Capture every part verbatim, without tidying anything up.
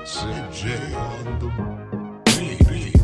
Sid J on the beat.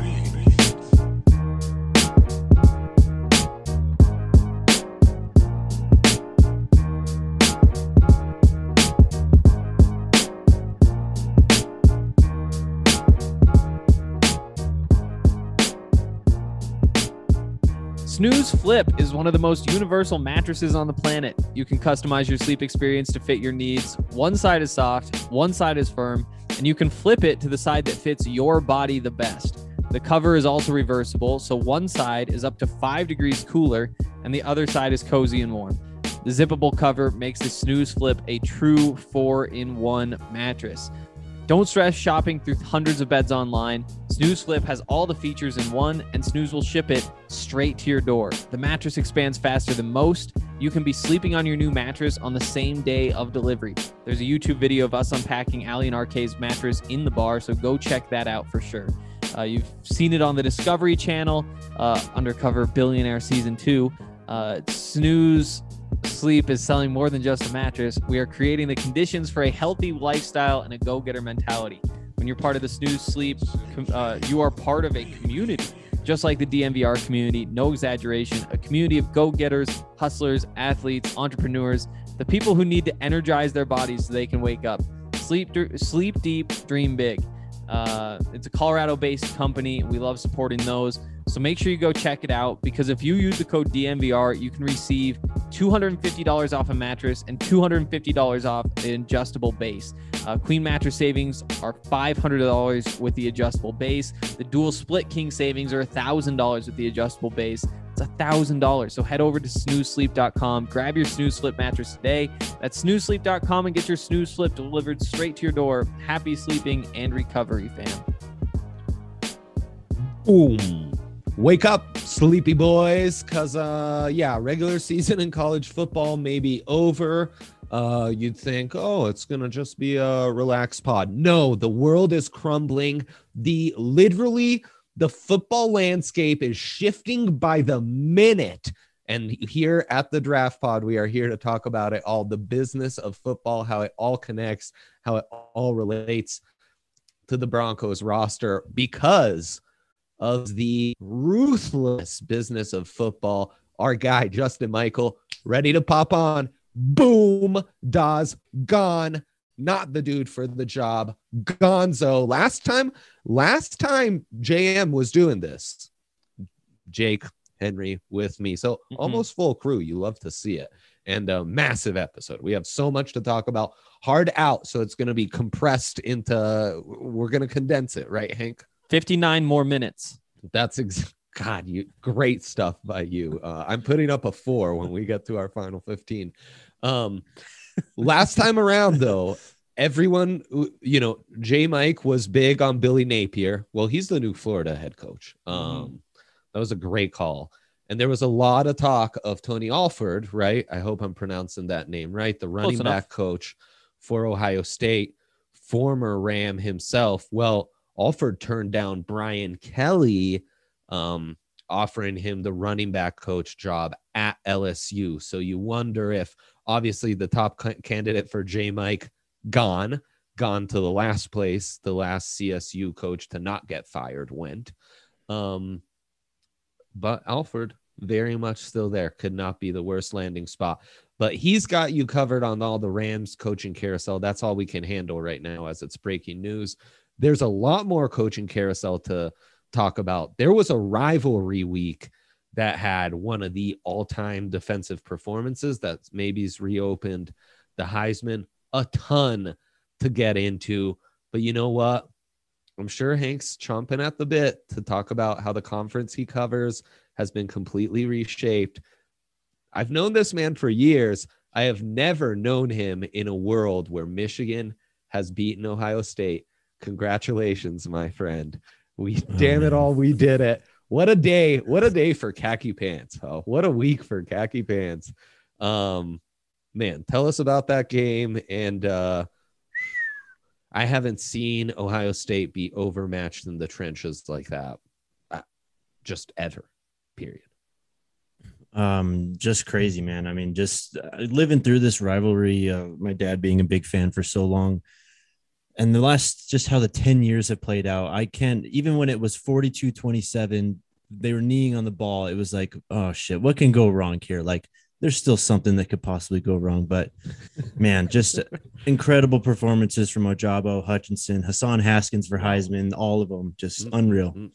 Snooze Flip is one of the most universal mattresses on the planet. You can customize your sleep experience to fit your needs. One side is soft, one side is firm, and you can flip it to the side that fits your body the best. The cover is also reversible, so one side is up to five degrees cooler, and the other side is cozy and warm. The zippable cover makes the Snooze Flip a true four-in-one mattress. Don't stress shopping through hundreds of beds online. Snooze Flip has all the features in one, and Snooze will ship it straight to your door. The mattress expands faster than most. You can be sleeping on your new mattress on the same day of delivery. There's a YouTube video of us unpacking Ali and R K's mattress in the bar, so go check that out for sure. Uh, you've seen it on the Discovery Channel, uh, Undercover Billionaire Season two. Uh, Snooze Sleep is selling more than just a mattress. We are creating the conditions for a healthy lifestyle and a go-getter mentality. When you're part of the Snooze Sleep, uh, you are part of a community, just like the D N V R community, no exaggeration, a community of go-getters, hustlers, athletes, entrepreneurs, the people who need to energize their bodies so they can wake up. Sleep, sleep deep, dream big. Uh, it's a Colorado-based company. We love supporting those. So make sure you go check it out, because if you use the code D N V R, you can receive two hundred fifty dollars off a mattress and two hundred fifty dollars off an adjustable base. Uh, Queen mattress savings are five hundred dollars with the adjustable base. The dual split king savings are one thousand dollars with the adjustable base. It's one thousand dollars. So head over to snooze sleep dot com, grab your Snooze Flip mattress today. That's snooze sleep dot com and get your Snooze Flip delivered straight to your door. Happy sleeping and recovery, fam. Boom. Wake up, sleepy boys, because, uh, yeah, regular season in college football may be over. Uh, you'd think, oh, it's going to just be a relaxed pod. No, the world is crumbling. The literally, the football landscape is shifting by the minute. And here at the Draft Pod, we are here to talk about it all, the business of football, how it all connects, how it all relates to the Broncos roster, because of the ruthless business of football. Our guy, Justin Michael, ready to pop on. Boom. Dawes gone. Not the dude for the job. Gonzo. Last time, last time J M was doing this, Jake Henry with me. So mm-hmm. almost full crew. You love to see it. And a massive episode. We have so much to talk about. Hard out. So it's going to be compressed into, we're going to condense it, right, Hank? fifty-nine more minutes. That's ex- God, you great stuff by you. Uh, I'm putting up a four when we get to our final fifteen. Um, last time around, though, everyone, you know, J Mike was big on Billy Napier. Well, he's the new Florida head coach. Um, mm-hmm. That was a great call. And there was a lot of talk of Tony Alford, right? I hope I'm pronouncing that name right. The running back coach for Ohio State, former Ram himself. Well, Alford turned down Brian Kelly, um, offering him the running back coach job at L S U. So you wonder if, obviously, the top c- candidate for J Mike gone, gone to the last place, the last C S U coach to not get fired went. Um, but Alford, very much still there. Could not be the worst landing spot. But he's got you covered on all the Rams coaching carousel. That's all we can handle right now as it's breaking news. There's a lot more coaching carousel to talk about. There was a rivalry week that had one of the all-time defensive performances that maybe's reopened the Heisman. A ton to get into. But you know what? I'm sure Hank's chomping at the bit to talk about how the conference he covers has been completely reshaped. I've known this man for years. I have never known him in a world where Michigan has beaten Ohio State. Congratulations, my friend. We oh, damn man. it all. We did it. What a day. What a day for khaki pants. Oh, what a week for khaki pants. Um, man, tell us about that game. And uh, I haven't seen Ohio State be overmatched in the trenches like that. Uh, just ever, period. Um, just crazy, man. I mean, just uh, living through this rivalry, uh, my dad being a big fan for so long. and the last, just how the ten years have played out, I can't, even when it was forty-two twenty-seven, they were kneeing on the ball. It was like, oh shit, what can go wrong here? Like, there's still something that could possibly go wrong. But man, just incredible performances from Ojabo, Hutchinson, Hassan Haskins for Heisman, all of them just unreal. one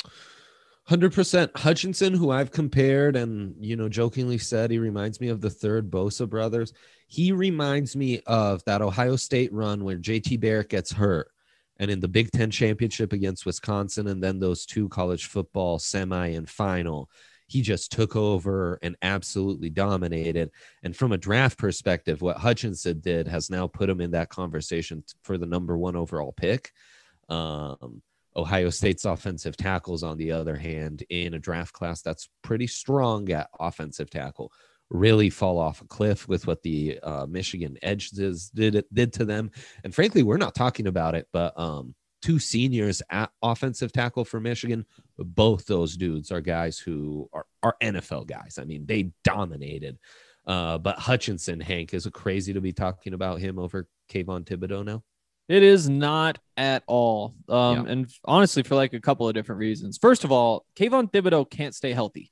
hundred percent. Hutchinson, who I've compared and, you know, jokingly said he reminds me of the third Bosa brothers. He reminds me of that Ohio State run where J T Barrett gets hurt, and in the Big Ten championship against Wisconsin, and then those two college football semi and final, he just took over and absolutely dominated. And from a draft perspective, what Hutchinson did has now put him in that conversation for the number one overall pick. Um, Ohio State's offensive tackles, on the other hand, in a draft class that's pretty strong at offensive tackle, really fall off a cliff with what the uh, Michigan edges did did to them. And frankly, we're not talking about it, but um, two seniors at offensive tackle for Michigan, both those dudes are guys who are, are N F L guys. I mean, they dominated. Uh, but Hutchinson, Hank, is it crazy to be talking about him over Kayvon Thibodeau now? It is not at all. Um, Yeah. And honestly, for like a couple of different reasons. First of all, Kayvon Thibodeau can't stay healthy.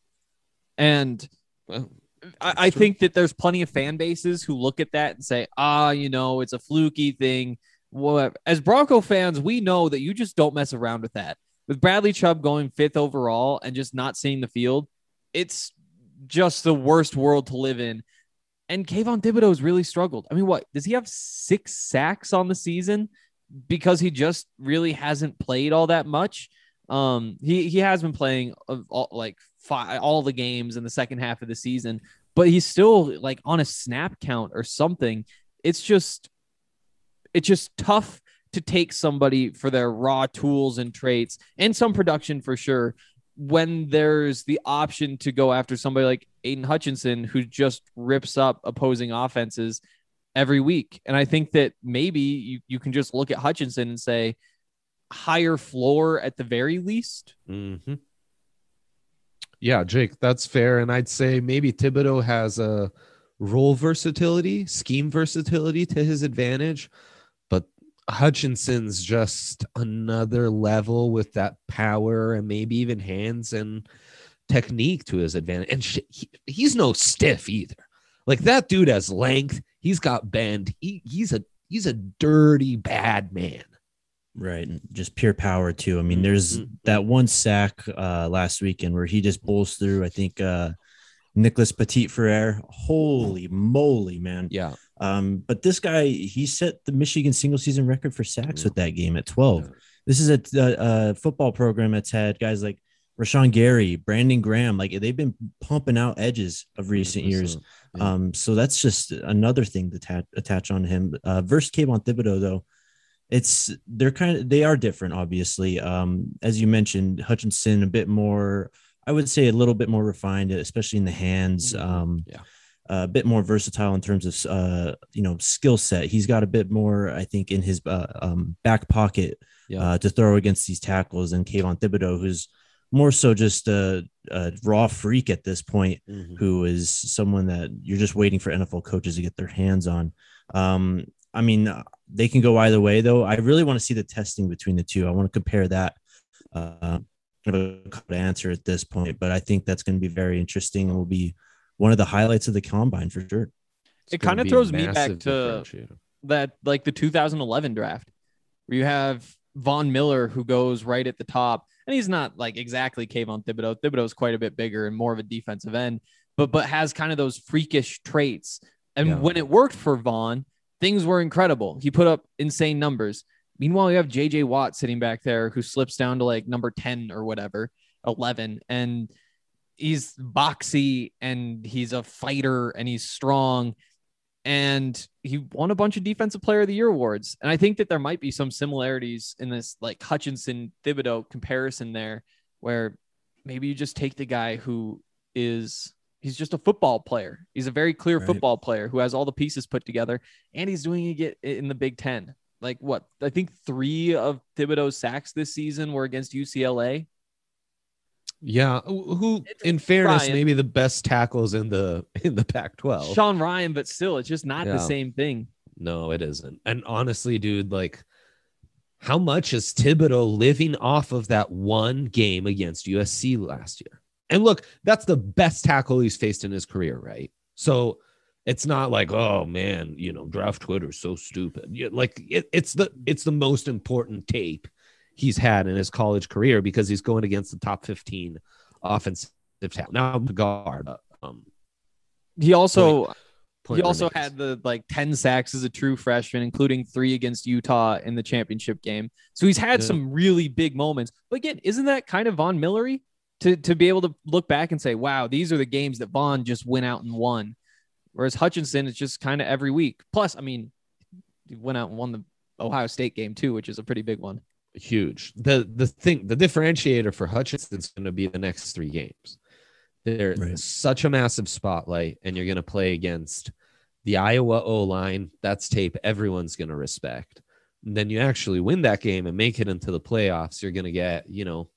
And Well, I, I think that there's plenty of fan bases who look at that and say, ah, you know, it's a fluky thing. Whatever. As Bronco fans, we know that you just don't mess around with that. With Bradley Chubb going fifth overall and just not seeing the field, it's just the worst world to live in. And Kayvon Thibodeau has really struggled. I mean, what, does he have six sacks on the season because he just really hasn't played all that much? Um, he, he has been playing uh, all, like five, all the games in the second half of the season, but he's still like on a snap count or something. It's just, it's just tough to take somebody for their raw tools and traits and some production for sure, when there's the option to go after somebody like Aiden Hutchinson, who just rips up opposing offenses every week. And I think that maybe you, you can just look at Hutchinson and say higher floor at the very least. Mm-hmm. Yeah, Jake, that's fair. And I'd say maybe Thibodeau has a role versatility, scheme versatility to his advantage, but Hutchinson's just another level with that power and maybe even hands and technique to his advantage. And sh- he, he's no stiff either. Like, that dude has length. He's got bend. He, he's a he's a dirty bad man. Right. And just pure power too. I mean, there's Mm-hmm. that one sack uh, last weekend where he just bowls through, I think, uh, Nicholas Petit Ferrer. Holy moly, man. Yeah. Um, but this guy, he set the Michigan single season record for sacks Yeah. with that game at twelve. Yeah. This is a, a, a football program that's had guys like Rashawn Gary, Brandon Graham. Like, they've been pumping out edges of recent years. Yeah. Um, so that's just another thing to ta- attach on him. Uh, versus Kayvon Thibodeau, though, it's they're kind of they are different, obviously. Um, as you mentioned, Hutchinson a bit more, I would say a little bit more refined, especially in the hands. Mhm. Um, Yeah. a bit more versatile in terms of uh, you know, skill set. He's got a bit more, I think, in his uh, um, back pocket Yeah. uh, to throw against these tackles than Kayvon Thibodeau, who's more so just a, a raw freak at this point, Mhm. who is someone that you're just waiting for N F L coaches to get their hands on. Um, I mean, they can go either way, though. I really want to see the testing between the two. I want to compare that. Uh, I have a couple to answer at this point, but I think that's going to be very interesting and will be one of the highlights of the combine for sure. It's It gonna kind of be a throws me back massive to differentiator. that, like the two thousand eleven draft, where you have Von Miller, who goes right at the top, and he's not like exactly Kayvon Thibodeau. Thibodeau's quite a bit bigger and more of a defensive end, but but has kind of those freakish traits. And Yeah. when it worked for Vaughn, things were incredible. He put up insane numbers. Meanwhile, you have J J Watt sitting back there, who slips down to like number ten or whatever, eleven, and he's boxy and he's a fighter and he's strong. And he won a bunch of defensive player of the year awards. And I think that there might be some similarities in this like Hutchinson Thibodeau comparison there, where maybe you just take the guy who is, he's just a football player. He's a very clear Right. football player who has all the pieces put together, and he's doing it in the Big Ten. Like what? I think three of Thibodeau's sacks this season were against U C L A. Yeah, who, It's in fairness, Ryan. maybe the best tackles in the in the Pac twelve. Sean Ryan, but still, it's just not Yeah. the same thing. No, it isn't. And honestly, dude, like how much is Thibodeau living off of that one game against U S C last year? And look, that's the best tackle he's faced in his career, right? So it's not like, oh man, you know, draft Twitter is so stupid. Yeah, like it, it's the it's the most important tape he's had in his college career because he's going against the top fifteen offensive tackle. Now guard. Um, He also point, point he also remains. had the like ten sacks as a true freshman, including three against Utah in the championship game. So he's had Yeah. some really big moments. But again, isn't that kind of Von Millery to to be able to look back and say, wow, these are the games that Von just went out and won. Whereas Hutchinson is just kind of every week. Plus, I mean, he went out and won the Ohio State game too, which is a pretty big one. Huge. The the thing, the differentiator for Hutchinson is going to be the next three games. They're Right. such a massive spotlight, and you're going to play against the Iowa O-line. That's tape everyone's going to respect. And then you actually win that game and make it into the playoffs. You're going to get, you know,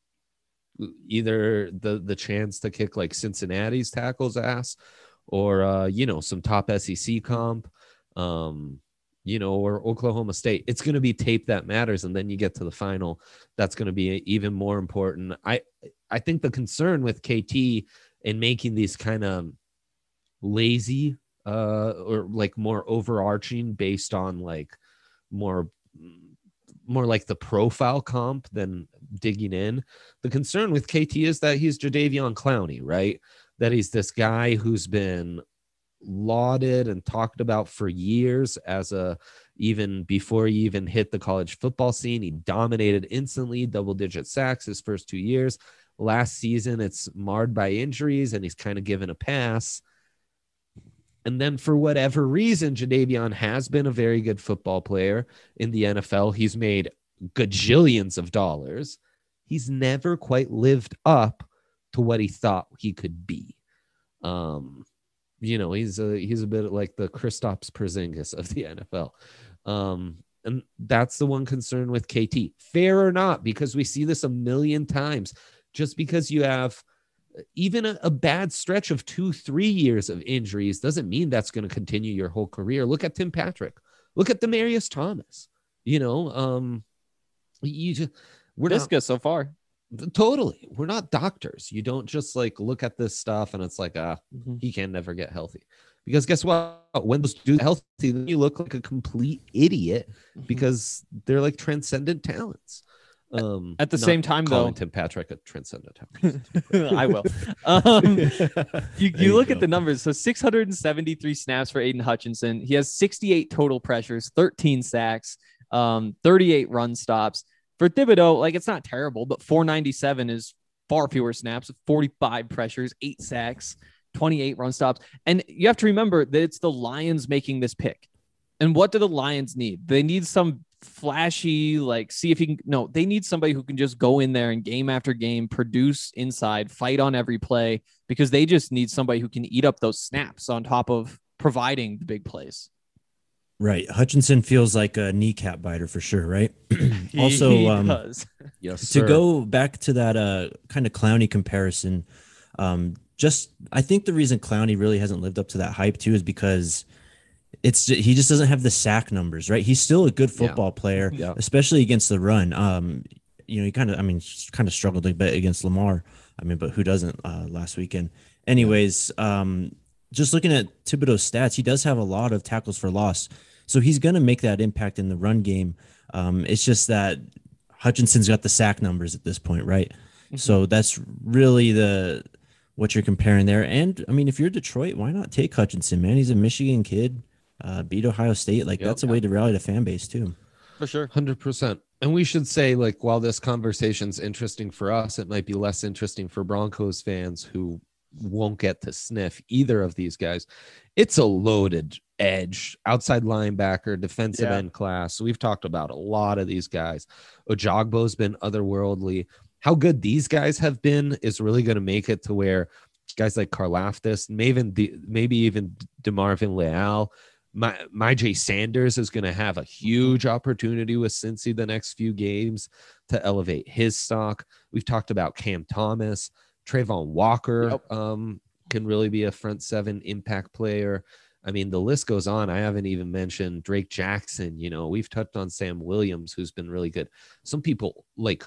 either the the chance to kick like Cincinnati's tackles ass, or uh, you know, some top S E C comp. Um, you know, or Oklahoma State. It's going to be tape that matters. And then you get to the final. That's going to be even more important. I, I think the concern with K T in making these kind of lazy uh, or like more overarching based on like more, more like the profile comp than digging in. The concern with K T is that he's Jadeveon Clowney, right? That he's this guy who's been lauded and talked about for years as a, even before he even hit the college football scene, he dominated instantly, double digit sacks his first two years. Last season, it's marred by injuries and he's kind of given a pass. And then for whatever reason, Jadeveon has been a very good football player in the N F L. He's made gajillions of dollars. He's never quite lived up to what he thought he could be. Um, You know, he's a he's a bit like the Kristaps Porzingis of the N F L. Um, and that's the one concern with K T. Fair or not, because we see this a million times. Just because you have even a, a bad stretch of two, three years of injuries doesn't mean that's going to continue your whole career. Look at Tim Patrick. Look at Demaryius Thomas. You know, um, you just, we're not, Visca so far. totally. We're not doctors. You don't just like look at this stuff and it's like, ah, Mm-hmm. he can never get healthy. Because guess what? When those dudes are healthy, then you look like a complete idiot because they're like transcendent talents. Um, At the not same time, calling though- Tim Patrick a transcendent talent. I will. Um, you There you you look go. at the numbers. So six hundred seventy-three snaps for Aiden Hutchinson. He has sixty-eight total pressures, thirteen sacks, um, thirty-eight run stops. For Thibodeau, like it's not terrible, but four ninety-seven is far fewer snaps, forty-five pressures, eight sacks, twenty-eight run stops. And you have to remember that it's the Lions making this pick. And what do the Lions need? They need some flashy, like, see if he can. No, they need somebody who can just go in there and game after game, produce inside, fight on every play, because they just need somebody who can eat up those snaps on top of providing the big plays. Right. Hutchinson feels like a kneecap biter for sure, right? Also, He um, does. Yes, to sir. go back to that uh, kind of Clowney comparison, um, just I think the reason Clowney really hasn't lived up to that hype too is because it's he just doesn't have the sack numbers, right? He's still a good Yeah. football player, Yeah. especially against the run. Um, you know, he kind of, I mean, kind of struggled a bit against Lamar. I mean, but who doesn't uh, last weekend? Anyways, um, just looking at Thibodeau's stats, he does have a lot of tackles for loss. So he's going to make that impact in the run game. Um, it's just that Hutchinson's got the sack numbers at this point, right? Mm-hmm. So that's really the what you're comparing there. And I mean, if you're Detroit, why not take Hutchinson, man? He's a Michigan kid, uh, beat Ohio State. Like Yep. that's a way to rally the fan base too. For sure. one hundred percent. And we should say, like, while this conversation's interesting for us, it might be less interesting for Broncos fans who won't get to sniff either of these guys. It's a loaded edge, outside linebacker, defensive Yeah. end class. We've talked about a lot of these guys. Ojagbo's been otherworldly. How good these guys have been is really going to make it to where guys like Karlaftis, maybe, maybe even DeMarvin Leal, my my Jay Sanders is going to have a huge opportunity with Cincy the next few games to elevate his stock. We've talked about Cam Thomas, Trayvon Walker Yep. um, can really be a front seven impact player. I mean, the list goes on. I haven't even mentioned Drake Jackson. You know, we've touched on Sam Williams, who's been really good. Some people like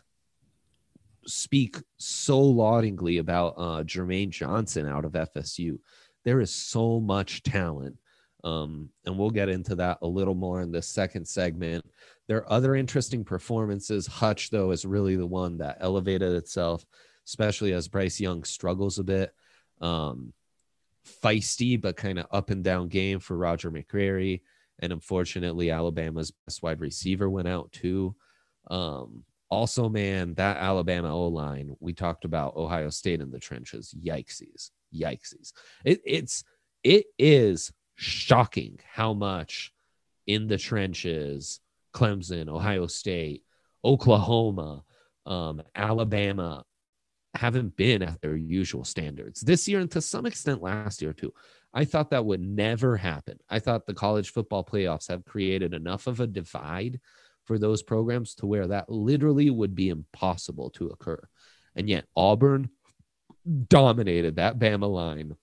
speak so laudingly about uh, Jermaine Johnson out of F S U. There is so much talent. Um, and we'll get into that a little more in this second segment. There are other interesting performances. Hutch, though, is really the one that elevated itself, especially as Bryce Young struggles a bit. Um, feisty, but kind of up and down game for Roger McCreary. And unfortunately, Alabama's best wide receiver went out too. Um, also, man, that Alabama O-line, we talked about Ohio State in the trenches. Yikesies. Yikesies. It, it's, it is shocking how much in the trenches Clemson, Ohio State, Oklahoma, um, Alabama haven't been at their usual standards this year, and to some extent last year too. I thought that would never happen. I thought the college football playoffs have created enough of a divide for those programs to where that literally would be impossible to occur. And yet Auburn dominated that Bama line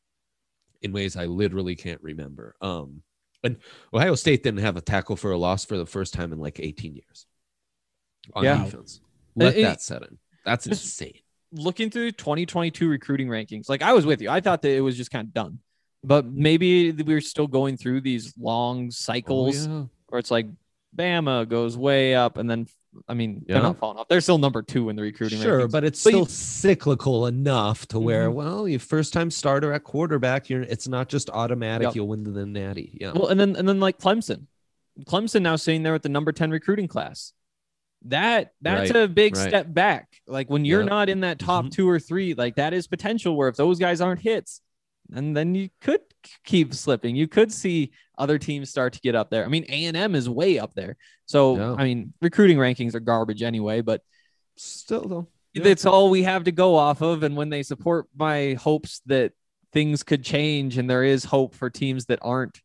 in ways I literally can't remember. Um, and Ohio State didn't have a tackle for a loss for the first time in like eighteen years on Yeah. defense. Let It- that set in. That's Just- insane. Looking through twenty twenty-two recruiting rankings, like I was with you. I thought that it was just kind of done, but maybe we were still going through these long cycles Oh, yeah. where it's like Bama goes way up, and then I mean they're Yeah. not falling off. They're still number two in the recruiting Sure, rankings. but it's But still you- cyclical enough to where, Mhm. well, you first time starter at quarterback, you're it's not just automatic. Yep. You'll win the natty. Yeah. Well, and then and then like Clemson, Clemson now sitting there with the number ten recruiting class. That that's Right, a big right. step back. Like when you're Yep. not in that top Mhm. two or three, like that is potential where if those guys aren't hits, and then you could keep slipping. You could see other teams start to get up there. I mean, A and M is way up there. So Yeah. I mean, recruiting rankings are garbage anyway, but Still though. Yeah. that's all we have to go off of. And when they support my hopes that things could change and there is hope for teams that aren't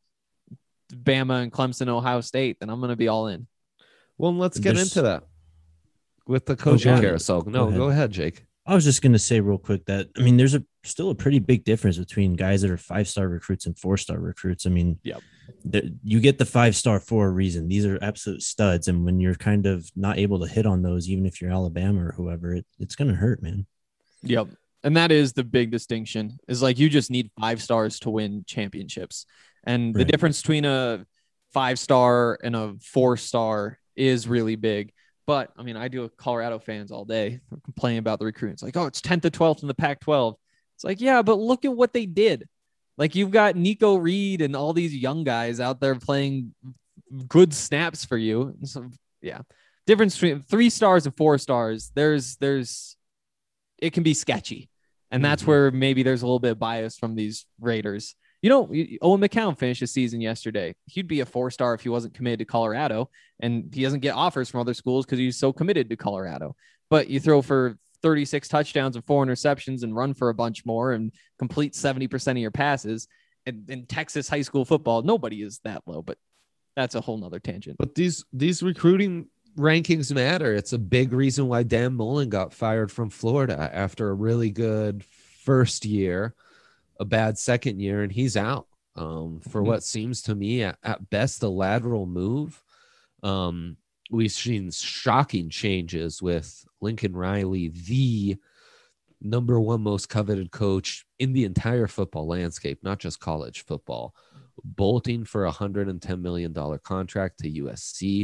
Bama and Clemson, Ohio State, then I'm going to be all in. Well, let's get There's- into that with the coaching ahead. carousel. No, Go go ahead. ahead, Jake. I was just going to say real quick that, I mean, there's a still a pretty big difference between guys that are five-star recruits and four-star recruits. I mean, Yep. the- you get the five-star for a reason. These are absolute studs. And when you're kind of not able to hit on those, even if you're Alabama or whoever, it, it's going to hurt, man. Yep. And that is the big distinction is like, you just need five stars to win championships. And the Right. difference between a five star and a four star is really big. But I mean, I deal with Colorado fans all day complaining about the recruiting. It's like, oh, it's tenth to twelfth in the Pac twelve. It's like, yeah, but look at what they did. Like you've got Nico Reed and all these young guys out there playing good snaps for you. And so, yeah, difference between three stars and four stars. There's, there's, it can be sketchy. And that's Mhm. where maybe there's a little bit of bias from these Raiders. You know, Owen McCown finished his season yesterday. He'd be a four star if he wasn't committed to Colorado, and he doesn't get offers from other schools because he's so committed to Colorado. But you throw for thirty-six touchdowns and four interceptions and run for a bunch more and complete seventy percent of your passes. And in Texas high school football, nobody is that low, but that's a whole nother tangent. But these these recruiting rankings matter. It's a big reason why Dan Mullen got fired from Florida after a really good first year, a bad second year, and he's out um, for Mhm. what seems to me at, at best a lateral move. Um, we've seen shocking changes with Lincoln Riley, the number one most coveted coach in the entire football landscape, not just college football, bolting for a one hundred ten million dollars contract to U S C.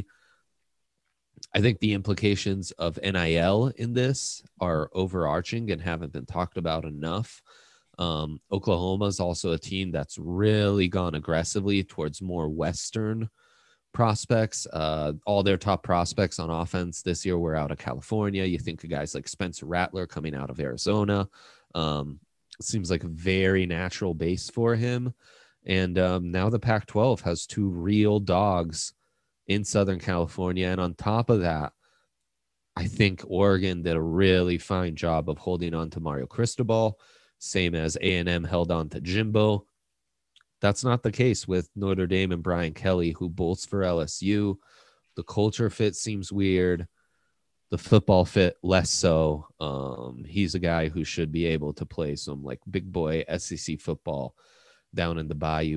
I think the implications of N I L in this are overarching and haven't been talked about enough. Um, Oklahoma is also a team that's really gone aggressively towards more Western prospects. Uh, all their top prospects on offense this year were out of California. You think of guys like Spencer Rattler coming out of Arizona. Um, it seems like a very natural base for him. And um, now the Pac twelve has two real dogs in Southern California. And on top of that, I think Oregon did a really fine job of holding on to Mario Cristobal, same as A and M held on to Jimbo. That's not the case with Notre Dame and Brian Kelly, who bolts for L S U. The culture fit seems weird. The football fit less so. Um, he's a guy who should be able to play some like big boy S E C football down in the Bayou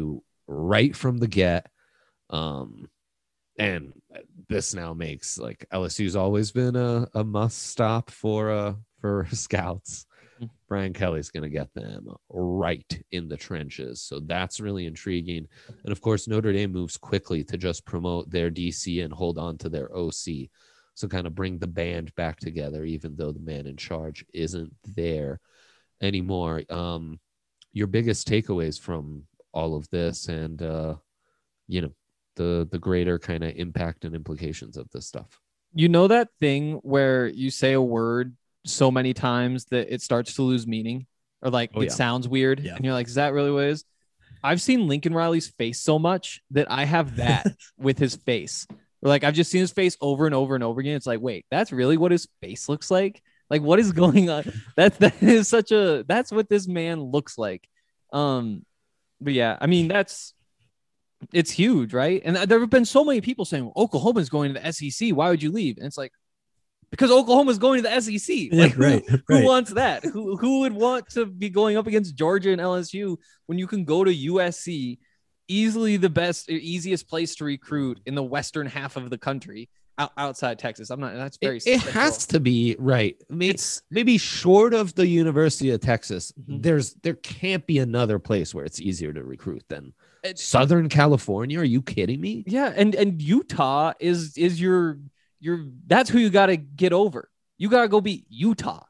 right from the get. Um, and this now makes like L S U's always been a, a must stop for uh for scouts. Brian Kelly's going to get them right in the trenches. So that's really intriguing. And of course, Notre Dame moves quickly to just promote their D C and hold on to their O C. So kind of bring the band back together, even though the man in charge isn't there anymore. Um, your biggest takeaways from all of this and, uh, you know, the, the greater kind of impact and implications of this stuff. You know that thing where you say a word so many times that it starts to lose meaning or like Oh, it yeah. sounds weird Yeah. and you're like, is that really what it is? I've seen Lincoln Riley's face so much that I have that with his face. Or like I've just seen his face over and over and over again. It's like, wait, that's really what his face looks like? Like what is going on? That that is such a that's what this man looks like. Um, but yeah, I mean that's it's huge, right? And there have been so many people saying well, Oklahoma's going to the S E C. Why would you leave? And it's like, because Oklahoma's going to the S E C. Yeah, Like, who, right, who right. wants that? Who who would want to be going up against Georgia and L S U when you can go to U S C, easily the best, easiest place to recruit in the western half of the country out, outside Texas? I'm not. That's very. It, it simple. has to be right. Maybe, It's maybe short of the University of Texas, Mhm. there's there can't be another place where it's easier to recruit than it- Southern California. Are you kidding me? yeah, and and Utah is is your your. That's who you got to get over. You got to go beat Utah.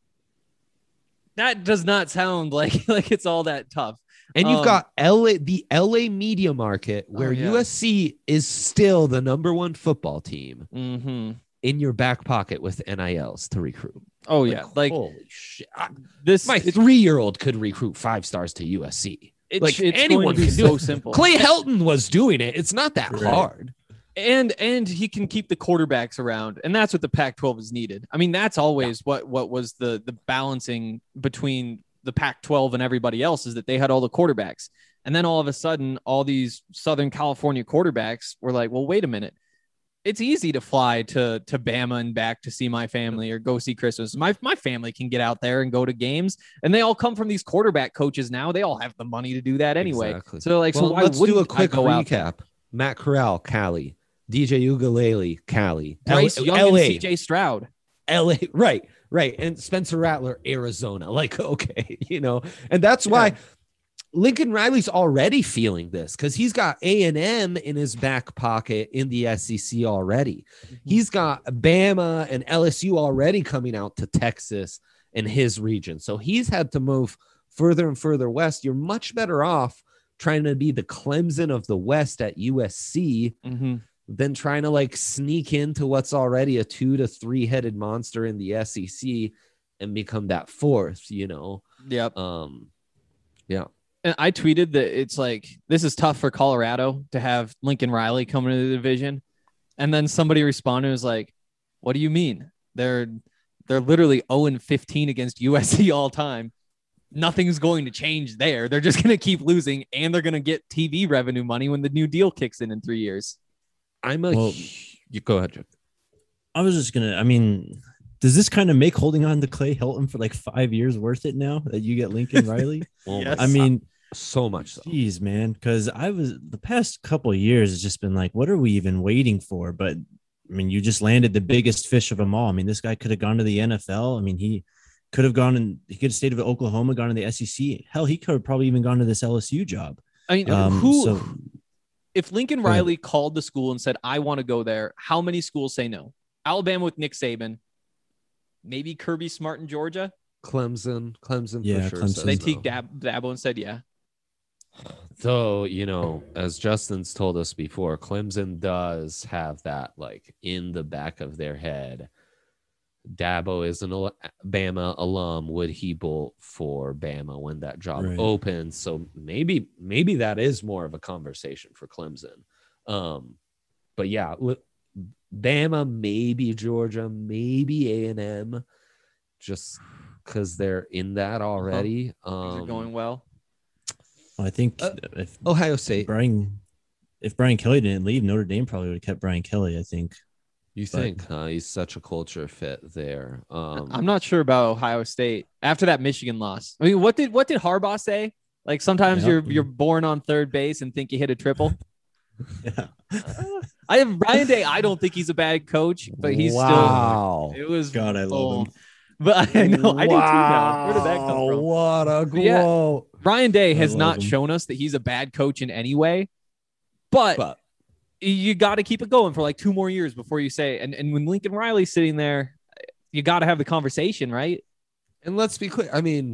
That does not sound like like it's all that tough. And you've Um, got L A, the L A media market, where Oh, yeah. U S C is still the number one football team Mm-hmm. in your back pocket with N I Ls to recruit. Oh yeah, like holy shit! I- this. my it's, three-year-old could recruit five stars to U S C. it's, like, it's anyone going to be can do so it. simple. Clay Helton was doing it. It's not that Right. hard. and and he can keep the quarterbacks around, and that's what the Pac twelve is needed. I mean, that's always what what was the the balancing between the Pac twelve and everybody else is that they had all the quarterbacks, and then all of a sudden, all these Southern California quarterbacks were like, well, wait a minute. It's easy to fly to to Bama and back to see my family or go see Christmas. My my family can get out there and go to games, and they all come from these quarterback coaches now. They all have the money to do that anyway. Exactly. So like, Well, so why let's do wouldn't a quick I go out there? recap. Matt Corral, Cali. D J Ugalele, Cali. Bryce L- Young L A, and C J Stroud. L A, right, right. And Spencer Rattler, Arizona. Like, okay, you know, and that's why Yeah. Lincoln Riley's already feeling this because he's got A and M in his back pocket in the S E C already. He's got Bama and L S U already coming out to Texas and his region. So he's had to move further and further west. You're much better off trying to be the Clemson of the West at U S C Mm-hmm. than trying to like sneak into what's already a two to three headed monster in the S E C and become that fourth, you know? Yep. Um, yeah. And I tweeted that it's like, this is tough for Colorado to have Lincoln Riley coming into the division. And then somebody responded and was like, what do you mean? They're, they're literally oh and fifteen against U S C all time. Nothing's going to change there. They're just going to keep losing, and they're going to get T V revenue money when the new deal kicks in in three years. I'm a, Well- you go ahead, Jeff. I was just gonna. I mean, does this kind of make holding on to Clay Helton for like five years worth it now that you get Lincoln Riley? Oh Yes. my I mean, so much so. geez, man, because I was the past couple of years has just been like, what are we even waiting for? But I mean, you just landed the biggest fish of them all. I mean, this guy could have gone to the N F L. I mean, he could have gone and he could have stayed with Oklahoma, gone to the S E C. Hell, he could have probably even gone to this L S U job. I mean, Um, who, so- if Lincoln Go ahead. Riley called the school and said, I want to go there, how many schools say no? Alabama with Nick Saban, maybe Kirby Smart in Georgia. Clemson, Clemson Yeah, for sure. Clemson. says They no. take Dab- Dabo and said, yeah. Though, you know, as Justin's told us before, Clemson does have that like in the back of their head. Dabo is an al- Bama alum. Would he bolt for Bama when that job Right. opens? So maybe, maybe that is more of a conversation for Clemson. Um, but yeah, li- Bama, maybe Georgia, maybe A and M, just because they're in that already. Things are Um, going well. I think Uh, if Ohio State. Brian, if Brian Kelly didn't leave, Notre Dame probably would have kept Brian Kelly. I think. You But- think, huh? He's such a culture fit there. Um, I'm not sure about Ohio State after that Michigan loss. I mean, what did what did Harbaugh say? Like sometimes Yep. you're you're born on third base and think you hit a triple. Yeah. Uh, I have Ryan Day. I don't think he's a bad coach, but he's wow. still. It was God, I love bold. him. But I know I do too now. Where did that come Wow, from? What a But yeah, quote. Ryan Day I has love not him. shown us that he's a bad coach in any way, but, But you got to keep it going for like two more years before you say. And and when Lincoln Riley's sitting there, you got to have the conversation, right? and let's be clear. I mean,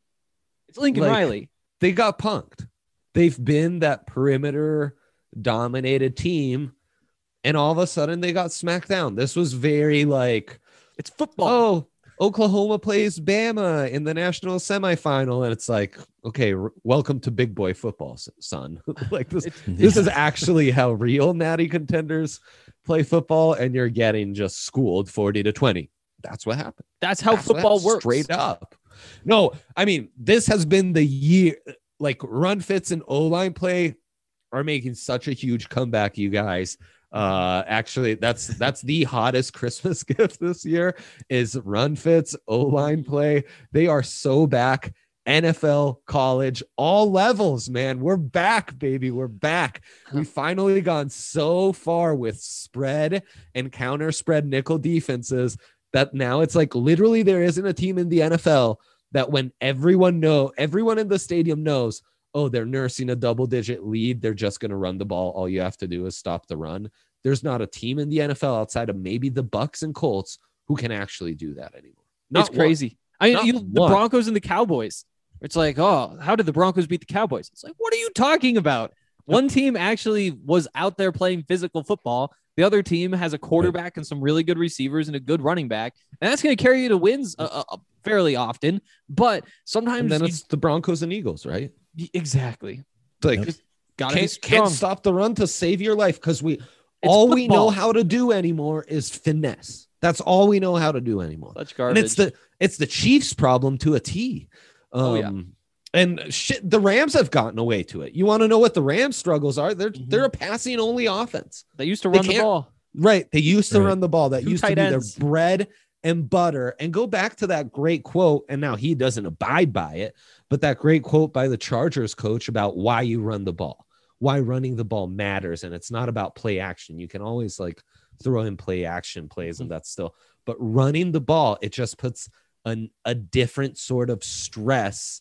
It's Lincoln Like, Riley. they got punked. They've been that perimeter dominated team, and all of a sudden they got smacked down. This was very like, It's football. oh, Oklahoma plays Bama in the national semifinal, and it's like, okay, r- welcome to big boy football, s- son. Like this, this is actually how real natty contenders play football, and you're getting just schooled forty to twenty. That's what happened. That's how That's what football happened, works. straight up. No, I mean, this has been the year. Like run fits and O-line play are making such a huge comeback, you guys. Uh, actually, that's that's the hottest Christmas gift this year is run fits, O-line play. They are so back. N F L, college, all levels, man. We're back, baby. We're back. We finally gone so far with spread and counter spread nickel defenses that now it's like literally there isn't a team in the N F L that when everyone know, everyone in the stadium knows, oh, they're nursing a double digit lead, they're just going to run the ball. All you have to do is stop the run. There's not a team in the N F L outside of maybe the Bucks and Colts who can actually do that anymore. Not It's crazy. I Not mean, you, the one. Broncos and the Cowboys. It's like, oh, how did the Broncos beat the Cowboys? It's like, what are you talking about? One team actually was out there playing physical football. The other team has a quarterback and some really good receivers and a good running back, and that's going to carry you to wins uh, uh, fairly often. But sometimes And then you- it's the Broncos and Eagles, right? exactly It's like, Yep. gotta be can't, strong. can't stop the run to save your life because we all we know football. how to do anymore is finesse. That's all we know how to do anymore. Such And garbage. it's the it's the Chiefs' problem to a T. Um, Oh, yeah. And shit, the Rams have gotten away to it. You want to know what the Rams' struggles are? They're Mhm. they're a passing only offense. they used to they run the can't- ball. Right. They used to Right. run the ball. That Two used to be tight their ends. bread and butter. And go back to that great quote. And now he doesn't abide by it, but that great quote by the Chargers coach about why you run the ball, why running the ball matters. And it's not about play action. You can always like throw in play action plays and that's still, but running the ball, it just puts an, a different sort of stress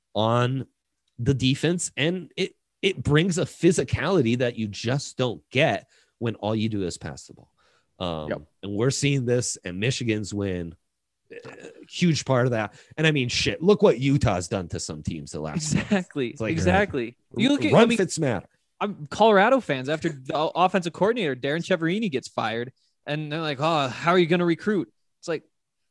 on the defense. And it, it brings a physicality that you just don't get when all you do is pass the ball. Um, Yep. And we're seeing this, and Michigan's win, uh, huge part of that. And I mean, shit, look what Utah's done to some teams the last month. Exactly. It's like- exactly. You look at, Run I mean, fits matter. I'm Colorado fans after the offensive coordinator Darren Cheverini gets fired, and they're like, "Oh, how are you going to recruit?" It's like,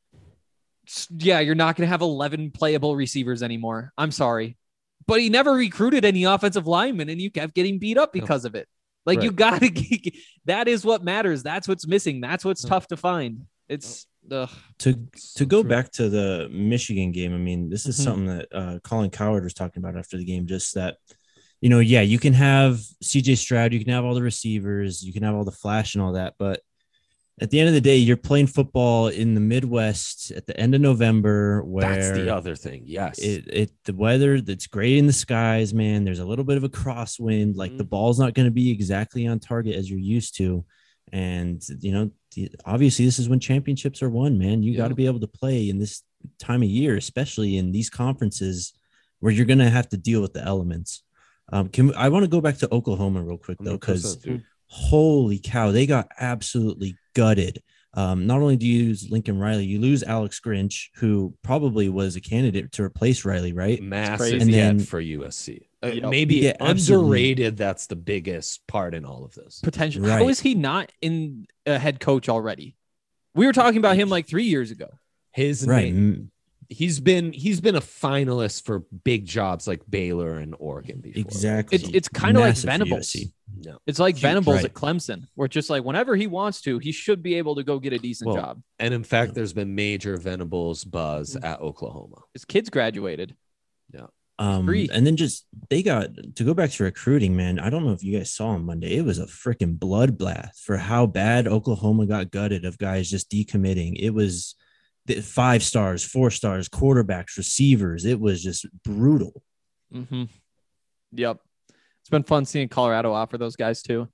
s- yeah, you're not going to have eleven playable receivers anymore. I'm sorry, but he never recruited any offensive linemen, and you kept getting beat up because of it. Like you Right. got to. That is what matters. That's what's missing. That's what's Yeah. tough to find. It's ugh. to So to go true. back to the Michigan game, I mean, this is Mhm. something that uh, Colin Coward was talking about after the game. Just that, you know, yeah, you can have C J Stroud, you can have all the receivers, you can have all the flash and all that, but at the end of the day, you're playing football in the Midwest at the end of November, where That's the other thing. Yes. it, it the weather that's gray in the skies, man. There's a little bit of a crosswind. Like the Mhm. ball's not going to be exactly on target as you're used to, and you know, the, obviously, this is when championships are won, man. You got Yeah. to be able to play in this time of year, especially in these conferences where you're going to have to deal with the elements. Um, can we, I want to go back to Oklahoma real quick though, because one hundred percent, dude. holy cow, they got absolutely gutted. Um, not only do you lose Lincoln Riley, you lose Alex Grinch, who probably was a candidate to replace Riley, right? massive crazy. And hit then- for U S C. Uh, Yep. Maybe Yeah, absolutely. underrated. That's the biggest part in all of this. potential. Right. How is he not in a head coach already? We were talking about him like three years ago. His Right. name, Mm, he's been he's been a finalist for big jobs like Baylor and Oregon before. Exactly. It's it's kind of like Massive for Venables. U S C. No. It's like Huge, Venables right. at Clemson, where it's just like whenever he wants to, he should be able to go get a decent Well, job. And in fact, there's been major Venables buzz Mm-hmm. at Oklahoma. His kids graduated. Um, Free. and then just they got to go back to recruiting, man. I don't know if you guys saw on Monday. It was a freaking bloodbath for how bad Oklahoma got gutted of guys just decommitting. It was the five stars, four stars, quarterbacks, receivers. It was just brutal. Mm-hmm. Yep. It's been fun seeing Colorado offer those guys too.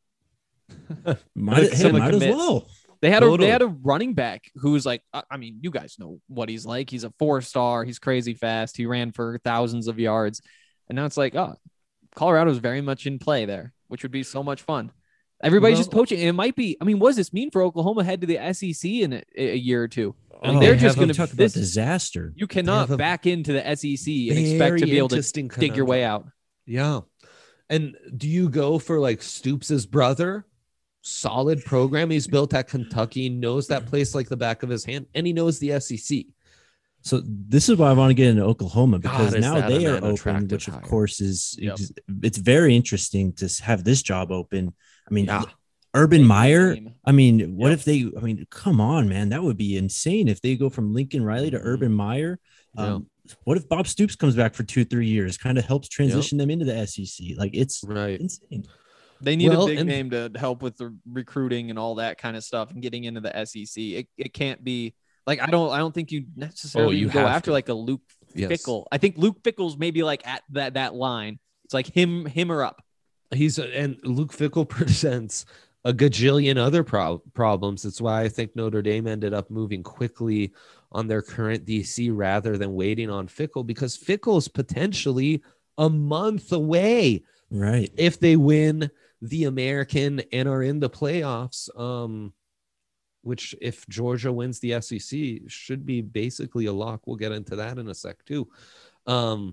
Might, Like hey, someone might as commits. well. They had a Totally. they had a running back who's like, I I mean, you guys know what he's like. He's a four star. He's crazy fast. He ran for thousands of yards, and now it's like, oh, Colorado's very much in play there, which would be so much fun. Everybody's just Well- poaching. It might be. I mean, what does this mean for Oklahoma head to the S E C in a, a year or two? Like, Oh, they're they just have a- going to talk about this. disaster. You cannot have a back into the S E C and expect to Very be able to interesting dig your way conundrum. out. Yeah. And do you go for like Stoops' brother? Solid program he's built at Kentucky, knows that place like the back of his hand, and he knows the S E C. So this is why I want to get into Oklahoma, because God, is now that they an are open, unattractive which of hire. course is Yep. ex- it's very interesting to s- have this job open. I mean, Yeah. Urban Big Meyer. name. I mean, what Yep. if they? I mean, come on, man, that would be insane if they go from Lincoln Riley to Mhm. Urban Meyer. Yeah. Um, What if Bob Stoops comes back for two, three years, kind of helps transition them into the S E C? Like it's Right. insane. They need Well, a big and- name to help with the recruiting and all that kind of stuff and getting into the S E C. It, it can't be like I don't I don't think you necessarily Oh, you go have after to. like a Luke Yes. Fickle. I think Luke Fickle's maybe like at that that line. It's like him him or up. He's and Luke Fickle presents a gajillion other pro- problems. That's why I think Notre Dame ended up moving quickly on their current D C rather than waiting on Fickle, because Fickle's potentially a month away Right. if they win the American and are in the playoffs. Um, which if Georgia wins the S E C should be basically a lock. We'll get into that in a sec too. Um,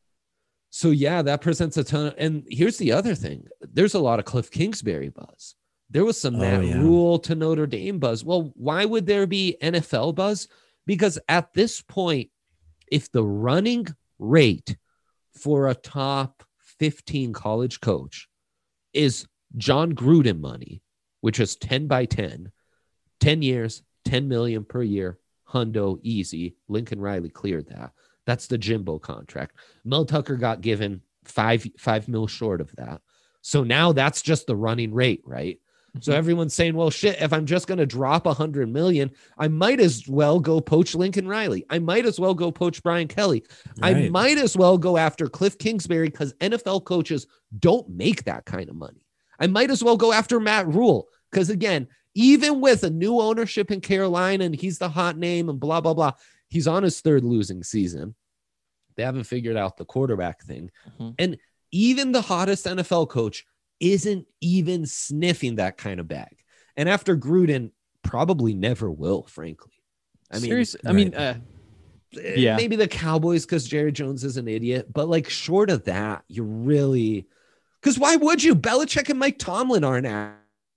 so yeah, that presents a ton of, and here's the other thing. There's a lot of Cliff Kingsbury buzz. There was some Oh, Matt yeah. Rule to Notre Dame buzz. Well, why would there be N F L buzz? Because at this point, if the running rate for a top fifteen college coach is John Gruden money, which is ten by ten, ten years, ten million per year, hundo easy. Lincoln Riley cleared that. That's the Jimbo contract. Mel Tucker got given five, five mil short of that. So now that's just the running rate, right? So everyone's saying, well, shit, if I'm just going to drop a hundred million, I might as well go poach Lincoln Riley. I might as well go poach Brian Kelly. I Right. might as well go after Cliff Kingsbury, because N F L coaches don't make that kind of money. I might as well go after Matt Rule, because again, even with a new ownership in Carolina and he's the hot name and blah, blah, blah, he's on his third losing season. They haven't figured out the quarterback thing. Mhm. And even the hottest N F L coach isn't even sniffing that kind of bag. And after Gruden, probably never will, frankly. I mean, Seriously, I mean, uh, eh, yeah. maybe the Cowboys because Jerry Jones is an idiot, but like short of that, you really, because why would you? Belichick and Mike Tomlin aren't at.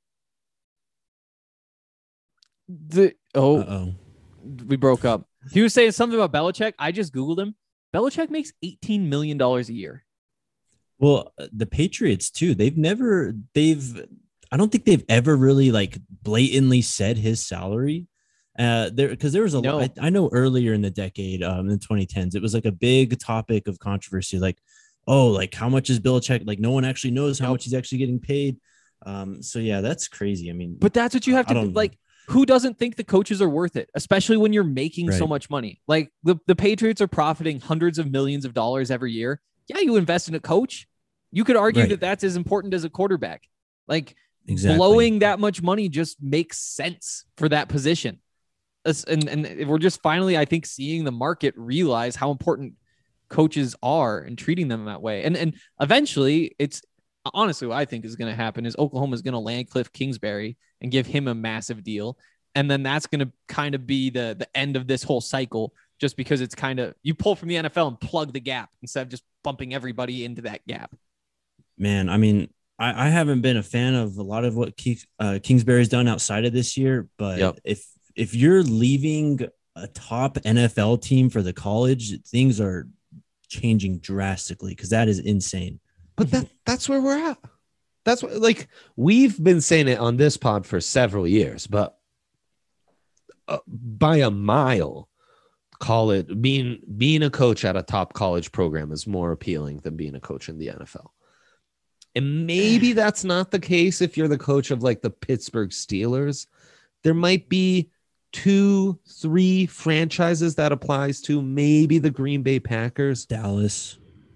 the oh, Uh-oh. we broke up. He was saying something about Belichick. I just Googled him. Belichick makes eighteen million dollars a year. Well, uh, the Patriots too. They've never. They've. I don't think they've ever really like blatantly said his salary. Uh, there because there was a No. lot. I, I know earlier in the decade, um, in the twenty tens, it was like a big topic of controversy. Like, oh, like how much is Belichick? Like, no one actually knows how Yep. much he's actually getting paid. Um, so yeah, that's crazy. I mean, But that's what you have I to don't- like. Who doesn't think the coaches are worth it, especially when you're making so Right. much money? Like the, the Patriots are profiting hundreds of millions of dollars every year. Yeah, you invest in a coach. You could argue Right. that that's as important as a quarterback. Like exactly. blowing that much money just makes sense for that position. As- And, and we're just finally, I think, seeing the market realize how important coaches are and treating them that way. And, and eventually, it's honestly what I think is going to happen is Oklahoma is going to land Cliff Kingsbury and give him a massive deal. And then that's going to kind of be the, the end of this whole cycle, just because it's kind of you pull from the N F L and plug the gap instead of just bumping everybody into that gap. Man, I mean, I, I haven't been a fan of a lot of what Keith, uh, Kingsbury's done outside of this year, but Yep. if if you're leaving a top N F L team for the college, things are changing drastically because that is insane. But that that's where we're at. That's what, like, we've been saying it on this pod for several years, but uh, by a mile, call it being being a coach at a top college program is more appealing than being a coach in the N F L. And maybe that's not the case if you're the coach of like the Pittsburgh Steelers. There might be two, three franchises that applies to, maybe the Green Bay Packers. Dallas. It's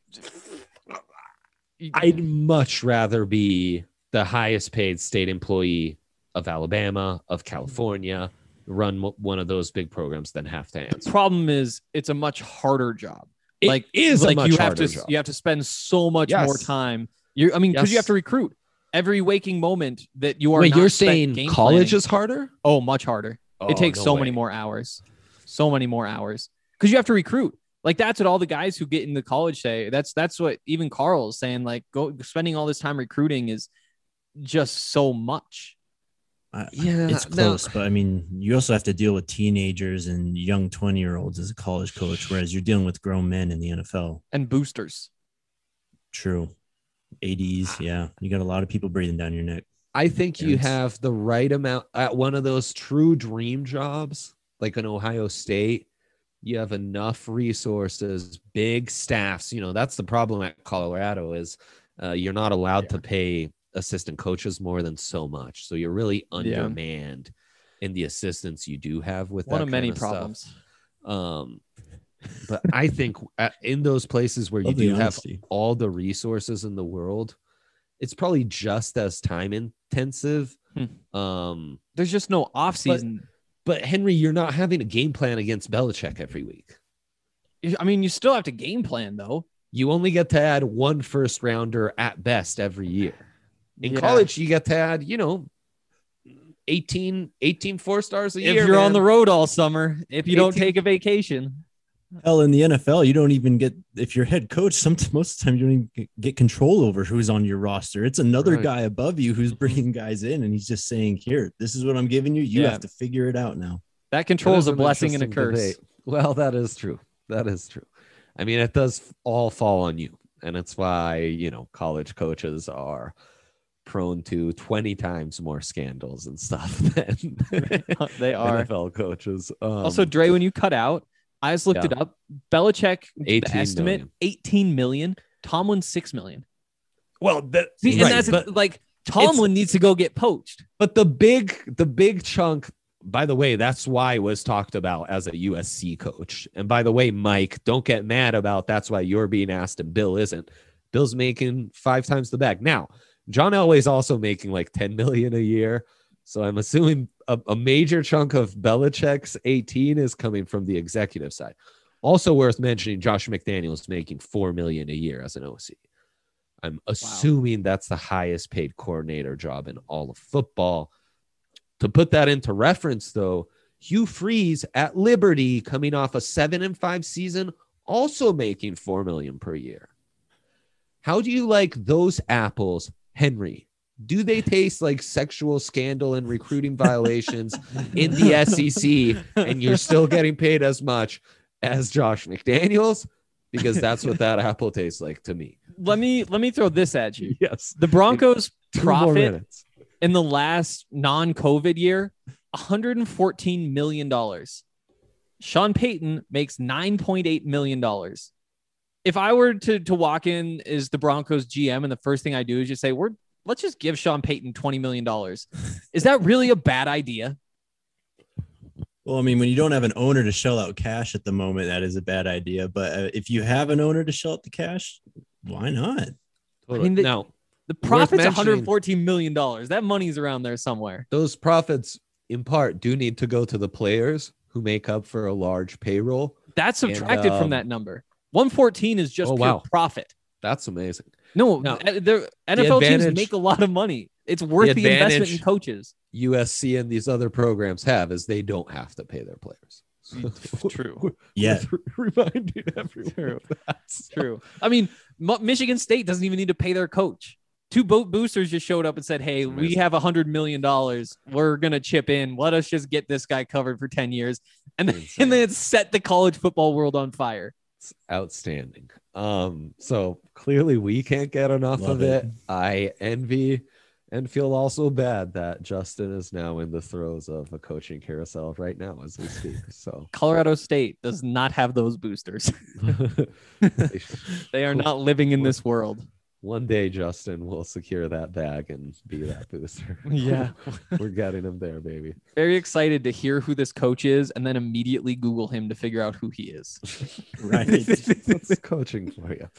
I'd much rather be the highest paid state employee of Alabama, of California, run mo- one of those big programs than have to answer. Problem is, it's a much harder job. It like is a like much you have harder to job. you have to spend so much Yes. more time. You I mean, because you Yes. have to recruit every waking moment that you are. Wait, not you're spent saying game college planning. is harder? Oh, much harder. Oh, it takes no so way. many more hours, so many more hours because you have to recruit. Like that's what all the guys who get into college say. That's that's what even Carl's saying. Like go spending all this time recruiting is just so much. I- Yeah, it's no. close, but I mean, you also have to deal with teenagers and young twenty year olds as a college coach, whereas you're dealing with grown men in the N F L. And boosters. True. A Ds. Yeah. You got a lot of people breathing down your neck. I think you Parents. have the right amount at one of those true dream jobs, like an Ohio State. You have enough resources, big staffs. You know, that's the problem at Colorado is uh, you're not allowed to pay assistant coaches more than so much. So you're really Yeah. undermanned in the assistants you do have with One that of many kind stuff. problems. Um, but I think at, in those places where you Love the do have honesty. all the resources in the world, it's probably just as time intensive. Hmm. Um, There's just no off season. but Henry, you're not having a game plan against Belichick every week. I mean, you still have to game plan though. You only get to add one first rounder at best every year. In Yeah. college, you get to add, you know, eighteen, eighteen four stars a If year. you're on man. the road all summer, if you don't eighteen take a vacation. Hell, in the N F L, you don't even get, if you're head coach, some, most of the time you don't even get- get control over who's on your roster. It's another Right. guy above you who's bringing guys in, and he's just saying, here, this is what I'm giving you. You Yeah. have to figure it out now. That That control is a an blessing and a interesting curse. debate. Well, that is true. That is true. I mean, it does all fall on you. And it's why, you know, college coaches are prone to twenty times more scandals and stuff than They are. N F L coaches. Um, Also, Dre, when you cut out, I just looked yeah. it up. Belichick, the eighteen estimate, million. eighteen million. Tomlin, six million. well, the, See, and right, that's but, like Tomlin needs to go get poached. but the big, the big chunk, by the way, that's why was talked about as a U S C coach. And by the way, Mike, don't get mad about that's why you're being asked and Bill isn't. Bill's making five times the bag. Now, John Elway's also making like ten million a year. So I'm assuming a, a major chunk of Belichick's eighteen is coming from the executive side. Also worth mentioning, Josh McDaniels making four million a year as an O C. I'm assuming that's the highest paid coordinator job in all of football. To put that into reference, though, Hugh Freeze at Liberty, coming off a seven and five season, also making four million per year. How do you like those apples, Henry? Do they taste like sexual scandal and recruiting violations in the S E C, and you're still getting paid as much as Josh McDaniels? Because that's what that apple tastes like to me. Let me let me throw this at you. Yes. The Broncos Two more profit minutes. in the last non-COVID year, one hundred fourteen million dollars. Sean Payton makes nine point eight million dollars. If I were to, to walk in as the Broncos G M and the first thing I do is just say, we're let's just give Sean Payton twenty million dollars. Is that really a bad idea? Well, I mean, when you don't have an owner to shell out cash at the moment, that is a bad idea. But uh, if you have an owner to shell out the cash, why not? I mean, the- now, The Worth profit's mentioning- one hundred fourteen million dollars. That money's around there somewhere. those profits in part do need to go to the players who make up for a large payroll. That's And, subtracted um, from that number. one fourteen is just Oh, pure wow. profit. That's amazing. No, Now, uh, the N F L teams advantage- make a lot of money. It's worth the, investment in advantage- coaches. U S C and these other programs have is they don't have to pay their players. True. Yeah. Reminding everyone. True. of that. True. I mean, Mo- Michigan State doesn't even need to pay their coach. Two boat boosters just showed up and said, hey, That's we amazing. have one hundred million dollars. We're going to chip in. Let us just get this guy covered for ten years. And then, Insane. and then it set the college football world on fire. It's outstanding. Um, so clearly we can't get enough Love of it. it. I envy and feel also bad that Justin is now in the throes of a coaching carousel right now as we speak. So Colorado State does not have those boosters. they should- They are not living in this world. one day Justin will secure that bag and be that booster. Yeah. We're getting him there, baby. Very excited to hear who this coach is and then immediately Google him to figure out who he is. Right. That's coaching for you.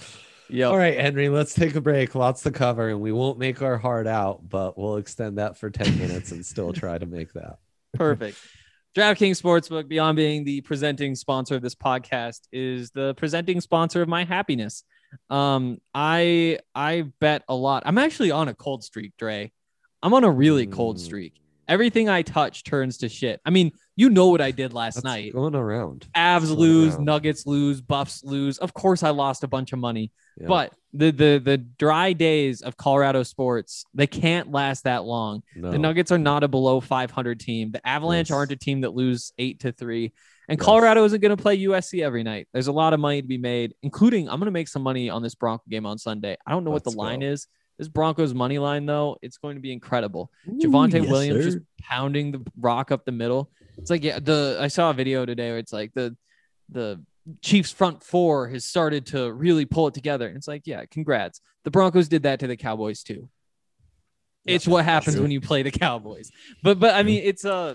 Yep. All right, Henry, let's take a break. Lots to cover, and we won't make our heart out, but we'll extend that for ten minutes and still try to make that. Perfect. DraftKings Sportsbook, beyond being the presenting sponsor of this podcast, is the presenting sponsor of my happiness. Um, I I bet a lot. I'm actually on a cold streak, Dre. I'm on a really cold streak. Everything I touch turns to shit. I mean, you know what I did last That's night. going around. Avs Going lose, around. Nuggets lose, Buffs lose. Of course, I lost a bunch of money. Yeah. But the the the dry days of Colorado sports, they can't last that long. No. The Nuggets are not a below five hundred team. The Avalanche Yes. aren't a team that lose eight to three. And Yes. Colorado isn't going to play U S C every night. There's a lot of money to be made, including I'm going to make some money on this Bronco game on Sunday. I don't know what Let's the line go. is. This Broncos money line, though, it's going to be incredible. Ooh, Javonte yes, Williams sir. just pounding the rock up the middle. It's like, yeah, the I saw a video today where it's like the the Chiefs front four has started to really pull it together. And it's like, yeah, congrats. The Broncos did that to the Cowboys too. It's what happens true. when you play the Cowboys. But but I mean, it's uh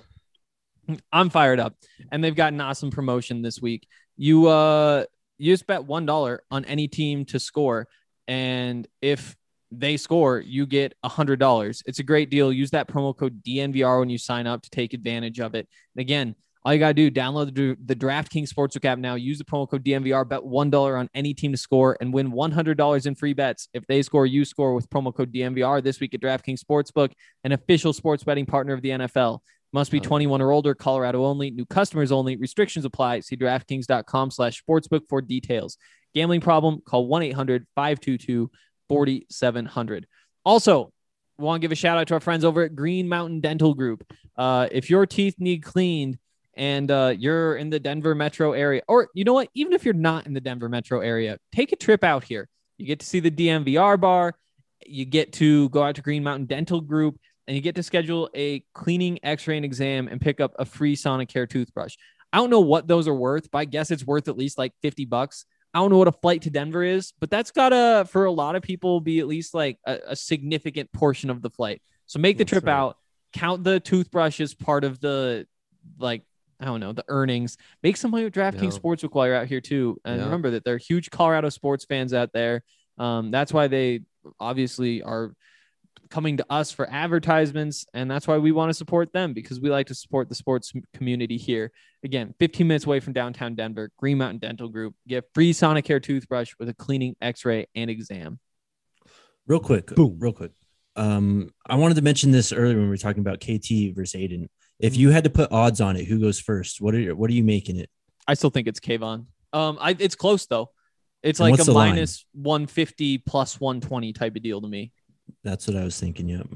I'm fired up, and they've got an awesome promotion this week. You uh you just bet one dollar on any team to score, and if they score, you get a hundred dollars. It's a great deal. Use that promo code D N V R when you sign up to take advantage of it. And again, all you gotta do, download the, the DraftKings Sportsbook app now. Use the promo code D N V R. Bet one dollar on any team to score and win one hundred dollars in free bets. If they score, you score with promo code D N V R this week at DraftKings Sportsbook, an official sports betting partner of the N F L. Must be twenty-one or older. Colorado only. New customers only. Restrictions apply. See DraftKings.com slash sportsbook for details. Gambling problem? Call one eight hundred five two two four seven zero zero. Also, want to give a shout out to our friends over at Green Mountain Dental Group. Uh, if your teeth need cleaned and uh, you're in the Denver metro area, or you know what, even if you're not in the Denver metro area, take a trip out here. You get to see the D M V R bar. You get to go out to Green Mountain Dental Group, and you get to schedule a cleaning, x-ray, and exam and pick up a free Sonicare toothbrush. I don't know what those are worth, but I guess it's worth at least like fifty bucks. I don't know what a flight to Denver is, but that's gotta, for a lot of people, be at least like a, a significant portion of the flight. So make the That's trip right. out, count the toothbrush as part of the, like, I don't know, the earnings. Make some money with DraftKings Yeah. Sportsbook while you're out here too. And Yeah. remember that they're huge Colorado sports fans out there. Um, that's why they obviously are coming to us for advertisements, and that's why we want to support them, because we like to support the sports community here. Again, fifteen minutes away from downtown Denver, Green Mountain Dental Group. Get free Sonicare toothbrush with a cleaning, x-ray, and exam. Real quick, Boom. real quick. Um, I wanted to mention this earlier when we were talking about K T versus Aiden. If you had to put odds on it, who goes first? What are your, what are you making it? I still think it's Kayvon. Um, I it's close though. It's And like what's a the line? minus one fifty plus one twenty type of deal to me. That's what I was thinking. Yep.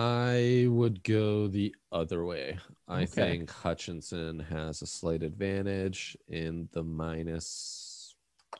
I would go the other way. I Okay. think Hutchinson has a slight advantage in the minus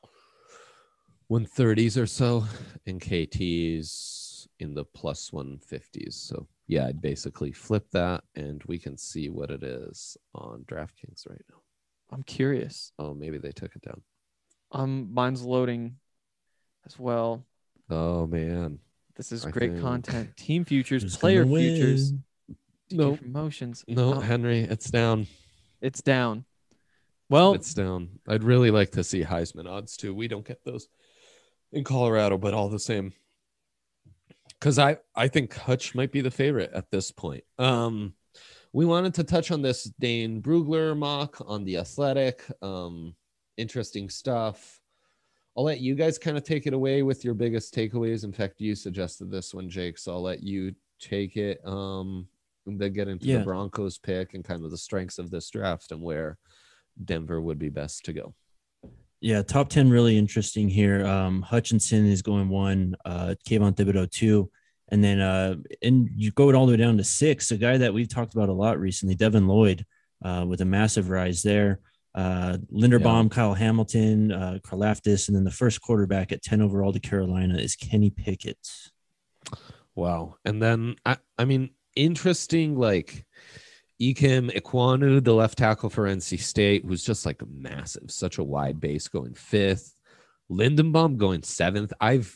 one thirties or so, and K T's in the plus one fifties. So yeah, I'd basically flip that, and we can see what it is on DraftKings right now. I'm curious. Oh, maybe they took it down. Um, mine's loading as well. Oh man. This is I great think- content. Team futures, Who's player gonna win? futures, No, promotions. no, Oh, Henry, it's down. it's down. Well, It's down. I'd really like to see Heisman odds too. We don't get those in Colorado, but all the same. Because I, I think Hutch might be the favorite at this point. Um, we wanted to touch on this Dane Brugler mock on The Athletic. Um, interesting stuff. I'll let you guys kind of take it away with your biggest takeaways. In fact, you suggested this one, Jake, so I'll let you take it. Um, and then get into Yeah. the Broncos pick and kind of the strengths of this draft and where Denver would be best to go. Yeah, top ten really interesting here. Um, Hutchinson is going one, uh, Kayvon Thibodeau two, and then uh, and you go all the way down to six. A guy that we've talked about a lot recently, Devin Lloyd, uh, with a massive rise there. Uh, Linderbaum, Yeah. Kyle Hamilton, uh, Karlaftis, and then the first quarterback at ten overall to Carolina is Kenny Pickett. Wow. And then, I, I mean, interesting, like Ikem Ikwanu, the left tackle for N C State, who's just like massive, such a wide base, going fifth. Lindenbaum going seventh. I've,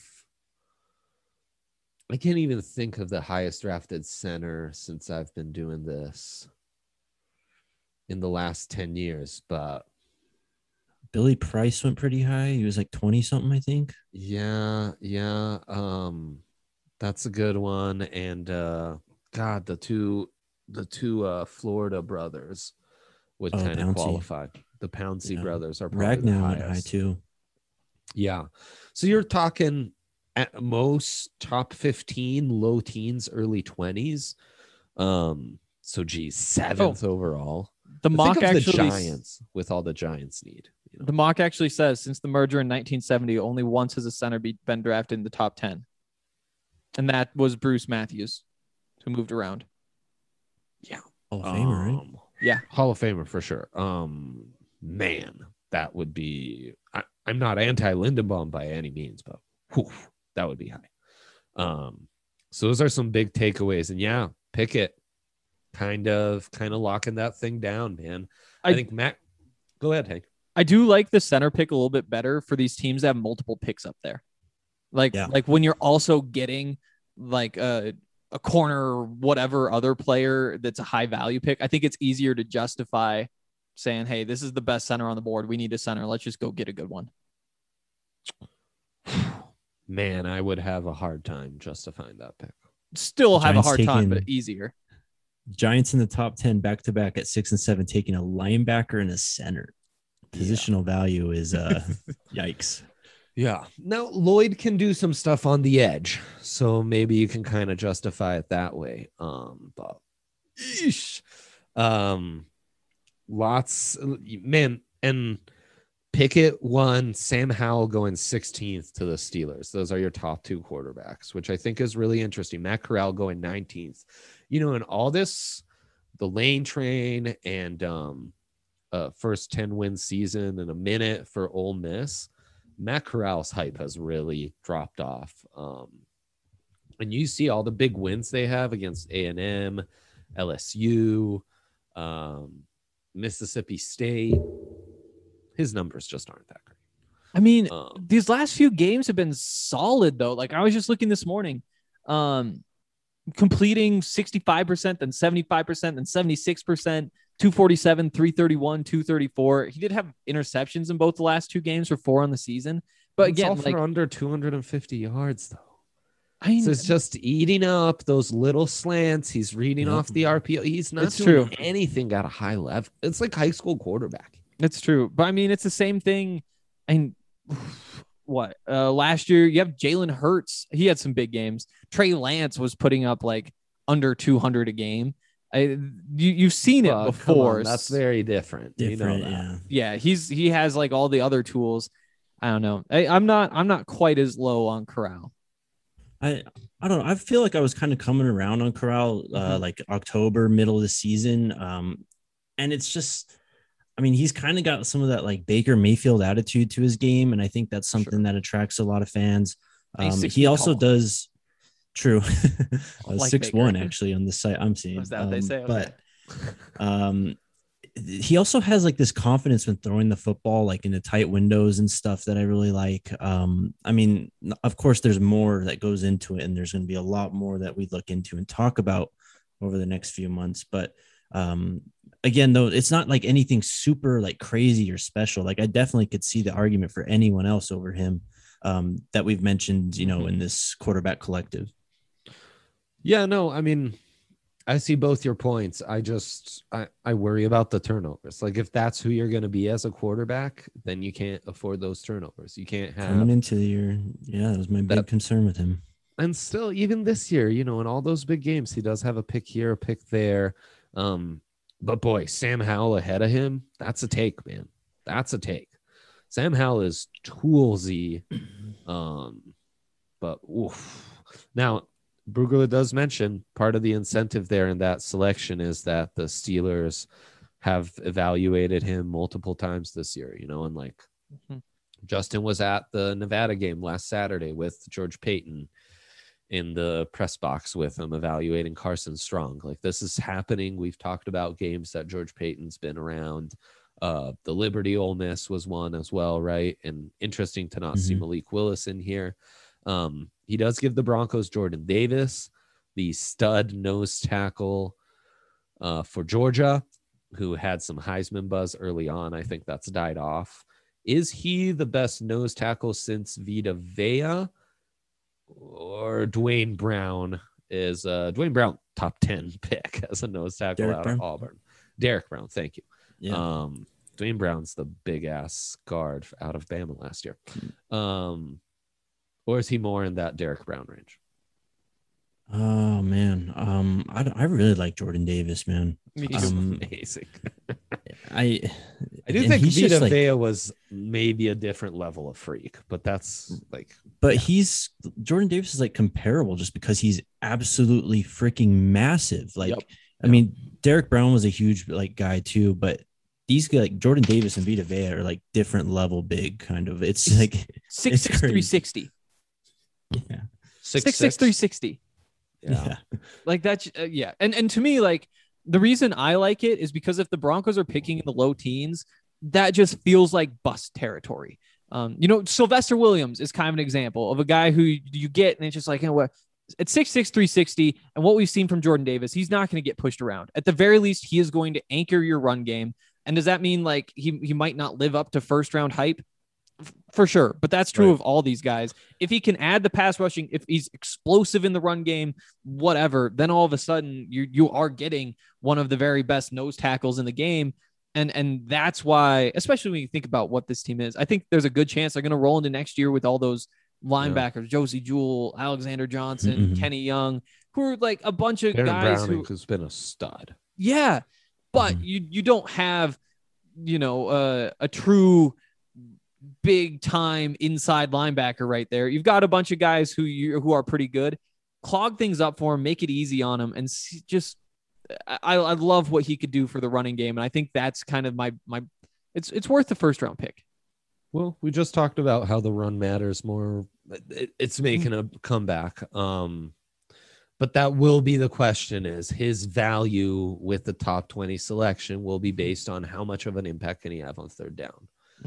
I can't even think of the highest drafted center since I've been doing this in the last ten years, but Billy Price went pretty high. He was like twenty something, I think. Yeah, yeah. Um, that's a good one. And uh, God, the two, the two uh, Florida brothers would Oh, kind of Pouncey. qualify. The Pouncey Yeah. brothers are probably the Ragnar went high highest. too. Yeah. So you're talking at most top fifteen, low teens, early twenties. Um, so geez, seventh overall. The But mock think of actually the Giants with all the Giants need. You know? the mock actually says since the merger in nineteen seventy, only once has a center be, been drafted in the top ten, and that was Bruce Matthews, who moved around. Hall of Famer, right? Um, Yeah. Hall of Famer for sure. Um, man, that would be. I, I'm not anti Lindenbaum by any means, but whew, that would be high. Um, so those are some big takeaways, and yeah, Pickett, kind of, kind of locking that thing down, man. I, I- think Matt. Go ahead, Hank. I do like the center pick a little bit better for these teams that have multiple picks up there. Like, Yeah. like when you're also getting like a, a corner or whatever other player that's a high value pick, I think it's easier to justify saying, hey, this is the best center on the board. We need a center. Let's just go get a good one. Man, I would have a hard time justifying that pick. Still have Giants a hard time, taking- but easier. Giants in the top ten back to back at six and seven, taking a linebacker and a center. Positional value is uh yikes. Yeah. Now Lloyd can do some stuff on the edge, so maybe you can kind of justify it that way. Um, but eesh. um, lots, man, and Pickett won. Sam Howell going sixteenth to the Steelers. Those are your top two quarterbacks, which I think is really interesting. Matt Corral going nineteenth. You know, in all this, the Lane Train and um. Uh, first ten win season in a minute for Ole Miss, Matt Corral's hype has really dropped off. Um, and you see all the big wins they have against A and M, L S U, um, Mississippi State. His numbers just aren't that great. I mean, Um, these last few games have been solid though. Like I was just looking this morning, um, completing sixty-five percent, then seventy-five percent, then seventy-six percent. two forty-seven, three thirty-one, two thirty-four. He did have interceptions in both the last two games for four on the season. But it's again, all for like under two hundred fifty yards though. I mean, So it's just eating up those little slants. He's reading Yep. off the R P O. He's not It's doing true. anything at a high level. It's like high school quarterback. it's true. But I mean, it's the same thing. And what uh, last year you have Jalen Hurts. He had some big games. Trey Lance was putting up like under two hundred a game. I, you, you've seen it Well, come before. on, that's very different. Different, you know that. yeah. Yeah, he's he has like all the other tools. I don't know. I, I'm not I'm not quite as low on Corral. I I don't know. I feel like I was kind of coming around on Corral uh, Mhm. like October, middle of the season. Um, and it's just, I mean, he's kind of got some of that like Baker Mayfield attitude to his game, and I think that's something that attracts a lot of fans. And he's Um, six he feet also tall. does. True, Like six one Baker. actually on the site I'm seeing. Was that what they Um, say? Okay. But um, he also has like this confidence when throwing the football, like in the tight windows and stuff that I really like. Um, I mean, of course, there's more that goes into it, and there's going to be a lot more that we look into and talk about over the next few months. But um, again, though, it's not like anything super like crazy or special. Like I definitely could see the argument for anyone else over him um, that we've mentioned, you know, in this quarterback collective. Yeah, no, I mean, I see both your points. I just I, I worry about the turnovers. Like if that's who you're going to be as a quarterback, then you can't afford those turnovers. You can't have Coming into the year, yeah, that was my big That- concern with him. and still even this year, you know, in all those big games, he does have a pick here, a pick there. Um, but boy, Sam Howell ahead of him, that's a take, man. That's a take. Sam Howell is toolsy. Um, but oof. Now Brugler does mention part of the incentive there in that selection is that the Steelers have evaluated him multiple times this year, you know, and like Mhm. Justin was at the Nevada game last Saturday with George Payton in the press box with him evaluating Carson Strong. Like this is happening. We've talked about games that George Payton's been around. Uh, the Liberty Ole Miss was one as well, right? And interesting to not see Mhm. Malik Willis in here. Um, he does give the Broncos Jordan Davis, the stud nose tackle uh, for Georgia, who had some Heisman buzz early on. I think that's died off. Is he the best nose tackle since Vita Vea, or Dwayne Brown is uh, Dwayne Brown top ten pick as a nose tackle Derek out Brown? of Auburn? Derek Brown, thank you. Yeah. Um, Dwayne Brown's the big ass guard out of Bama last year. Um, or is he more in that Derek Brown range? Oh man, um, I, I really like Jordan Davis, man. Me too. He's Um, amazing. I I do and think he's just Vita like- Vea was maybe a different level of freak, but that's like, But yeah. he's Jordan Davis is like comparable just because he's absolutely freaking massive. Like, Yep. I mean, Derek Brown was a huge like guy too, but these guys, like Jordan Davis and Vita Vea, are like different level big kind of. It's like Six It's six crazy. three sixty. yeah, six, Six six three sixty. Yeah. yeah. Like that, uh, yeah. And and to me, like the reason I like it is because if the Broncos are picking in the low teens, that just feels like bust territory. Um, you know, Sylvester Williams is kind of an example of a guy who you get, and it's just like, you know what? At six six, three sixty, and what we've seen from Jordan Davis, he's not going to get pushed around. At the very least, he is going to anchor your run game. And does that mean like he, he might not live up to first round hype? F- For sure. But that's true Right. of all these guys. If he can add the pass rushing, if he's explosive in the run game, whatever, then all of a sudden you you are getting one of the very best nose tackles in the game. And and that's why, especially when you think about what this team is, I think there's a good chance they're going to roll into next year with all those linebackers, Josie Jewell, Alexander Johnson, Mhm. Kenny Young, who are like a bunch of Baron guys Browning, who, who's been a stud. yeah, but Mhm. you you don't have, you know, uh, a true big time inside linebacker right there. You've got a bunch of guys who you who are pretty good. Clog things up for him, make it easy on him, and see, just I, I love what he could do for the running game, and I think that's kind of my my. It's it's worth the first round pick. Well, we just talked about how the run matters more. It, it's making a comeback. Um, but that will be the question: is his value with the top twenty selection will be based on how much of an impact can he have on third down?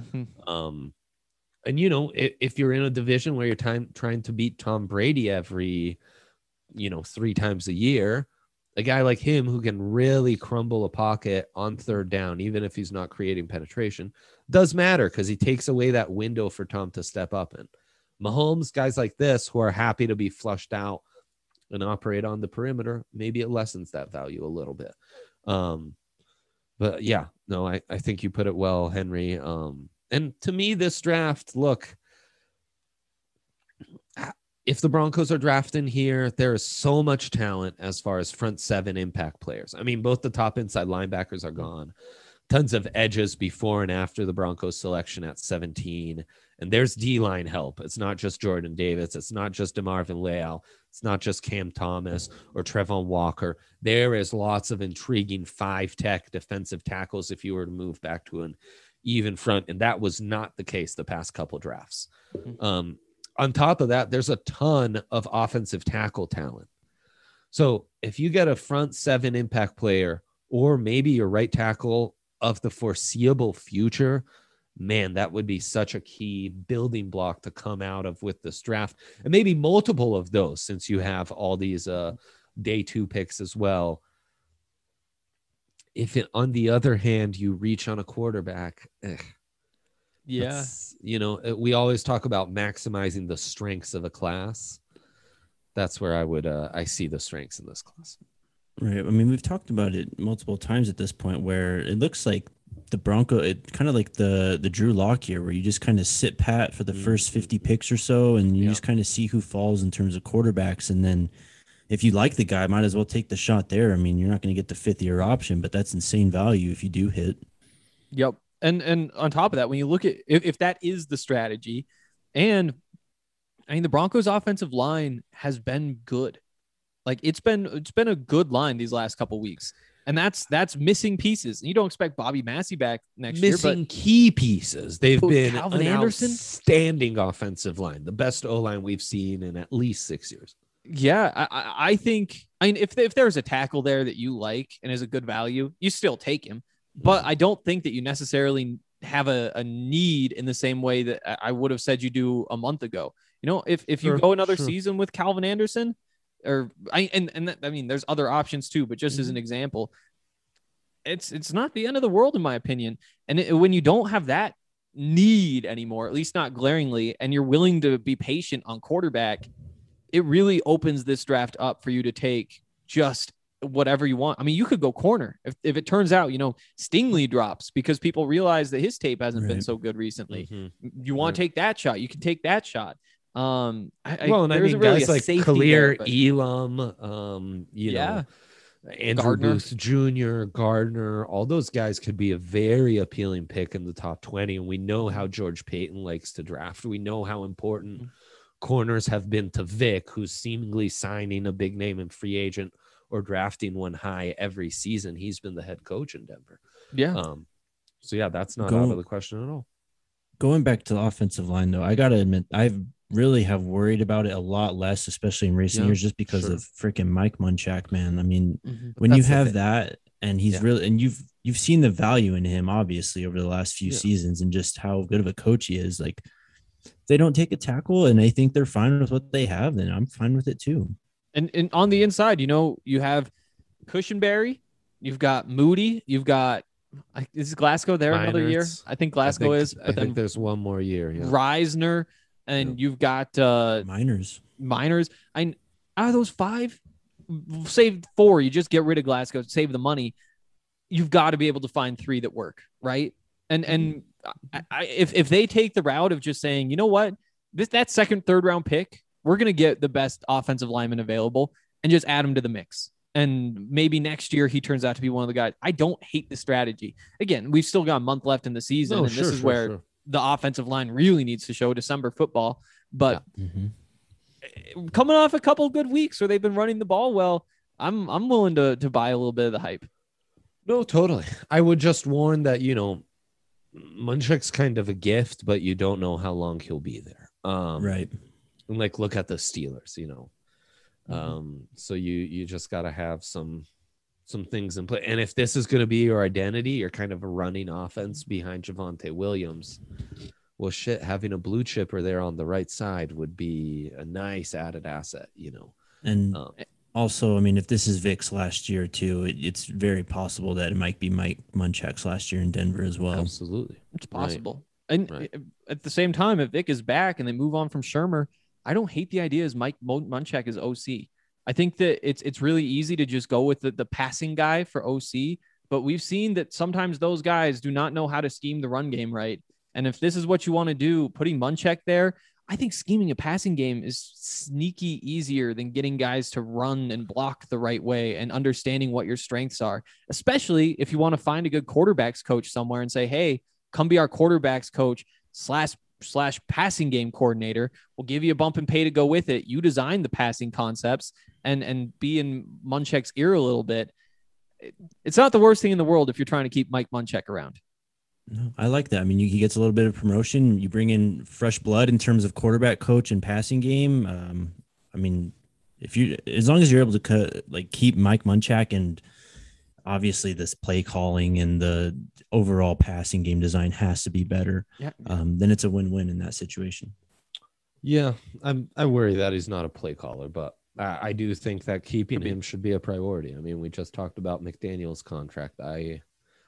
Um, and you know, if, if you're in a division where you're time, trying to beat Tom Brady every, you know, three times a year, a guy like him who can really crumble a pocket on third down, even if he's not creating penetration, does matter because he takes away that window for Tom to step up in. Mahomes, guys like this who are happy to be flushed out and operate on the perimeter, maybe it lessens that value a little bit. Um, but yeah, no, I, I think you put it well, Henry. Um, and to me, this draft, look, if the Broncos are drafting here, there is so much talent as far as front seven impact players. I mean, both the top inside linebackers are gone. Tons of edges before and after the Broncos selection at seventeen. And there's D-line help. It's not just Jordan Davis. It's not just DeMarvin Leal. It's not just Cam Thomas or Trevon Walker. There is lots of intriguing five-tech defensive tackles if you were to move back to an even front. And that was not the case the past couple drafts. Mhm. Um, on top of that, there's a ton of offensive tackle talent. So if you get a front seven impact player or maybe your right tackle of the foreseeable future, man, that would be such a key building block to come out of with this draft, and maybe multiple of those since you have all these uh, day two picks as well. If it, on the other hand, you reach on a quarterback, eh, Yeah. that's- you know, uh, we always talk about maximizing the strengths of a class. That's where I would, uh, I see the strengths in this class. Right. I mean, we've talked about it multiple times at this point where it looks like the Bronco, it kind of like the the Drew Lock here, where you just kind of sit pat for the first fifty picks or so, and you Yeah. just kind of see who falls in terms of quarterbacks. And then if you like the guy, might as well take the shot there. I mean, you're not going to get the fifth year option, but that's insane value if you do hit. Yep. And and on top of that, when you look at if, if that is the strategy, and I mean the Broncos offensive line has been good. Like it's been it's been a good line these last couple weeks. And that's that's missing pieces. And you don't expect Bobby Massey back next Missing year, key pieces. They've But been Calvin an Anderson? outstanding offensive line, the best O line we've seen in at least six years. but yeah, I, I I think I mean if if there's a tackle there that you like and is a good value, you still take him. But I don't think that you necessarily have a, a need in the same way that I I would have said you do a month ago. You know, if if you Sure, go another sure. season with Calvin Anderson, or I and and that, I mean, there's other options too, but just as Mm-hmm. an example, it's it's not the end of the world in my opinion. And it, when you don't have that, need anymore, at least not glaringly, and you're willing to be patient on quarterback, it really opens this draft up for you to take just whatever you want. I mean, you could go corner if, if it turns out, you know, Stingley drops because people realize that his tape hasn't Right. been so good recently. Mm-hmm. You want to take that shot, you can take that shot. Um, I, Well, I, and I there mean, isn't really guys a like safety Khalil there, but- Elam, um, you Yeah. know, Andrew Gardner. Booth Junior, Gardner, all those guys could be a very appealing pick in the top twenty. And we know how George Payton likes to draft. We know how important Mhm. corners have been to Vic, who's seemingly signing a big name in free agent or drafting one high every season. He's been the head coach in Denver. Yeah. Um, so yeah, that's not Go- out of the question at all. Going back to the offensive line, though, I got to admit, I've really have worried about it a lot less, especially in recent Yeah, years, just because sure. of freaking Mike Munchak, man. I mean, Mhm. when you That's the have thing. that and he's Yeah. really, and you've, you've seen the value in him, obviously, over the last few Yeah. seasons and just how good of a coach he is. Like, if they don't take a tackle and I think they're fine with what they have, then I'm fine with it too. And, and on the inside, you know, you have Cushenberry, you've got Moody, you've got, I- is Glasgow there another year? Meinerz. I think I Glasgow think- is, I but think then there's one more year. Yeah. Reisner, and you've got uh, Miners. Miners. I out of those five, save four. You just get rid of Glasgow, save the money. You've got to be able to find three that work, right? And and I, I, if if they take the route of just saying, you know what, this that second, third round pick, we're gonna get the best offensive lineman available and just add him to the mix. And maybe next year he turns out to be one of the guys. I don't hate the strategy. Again, we've still got a month left in the season, No, and sure, this is sure, where sure. the offensive line really needs to show December football. But Mhm. coming off a couple good weeks where they've been running the ball well, I'm I'm willing to to buy a little bit of the hype. No, totally. I would just warn that, you know, Munchak's kind of a gift, but you don't know how long he'll be there. Um, Right. And like, look at the Steelers, you know. Mm-hmm. Um, so you you just got to have some some things in play. And if this is going to be your identity, you're kind of a running offense behind Javonte Williams. Well, shit, having a blue chipper there on the right side would be a nice added asset, you know. And Um, also, I mean, if this is Vic's last year too, it, it's very possible that it might be Mike Munchak's last year in Denver as well. absolutely. It's Right. possible. And Right. at the same time, if Vic is back and they move on from Shermer, I don't hate the idea as Mike Mon- Munchak is O C. I think that it's it's really easy to just go with the, the passing guy for O C, but we've seen that sometimes those guys do not know how to scheme the run game right. And if this is what you want to do, putting Munchak there, I think scheming a passing game is sneaky easier than getting guys to run and block the right way and understanding what your strengths are, especially if you want to find a good quarterbacks coach somewhere and say, hey, come be our quarterbacks coach slash slash passing game coordinator. We'll give you a bump and pay to go with it. You design the passing concepts and, and be in Munchak's ear a little bit. It- It's not the worst thing in the world if you're trying to keep Mike Munchak around. No, I like that. I mean, you, he gets a little bit of promotion. You bring in fresh blood in terms of quarterback coach and passing game. Um, I mean, if you, as long as you're able to cut, like keep Mike Munchak and obviously this play calling and the overall passing game design has to be better. Yeah. Um, then it's a win-win in that situation. Yeah, I'm. I worry that he's not a play caller, but I, I do think that keeping Could be. him should be a priority. I mean, we just talked about McDaniel's contract. I,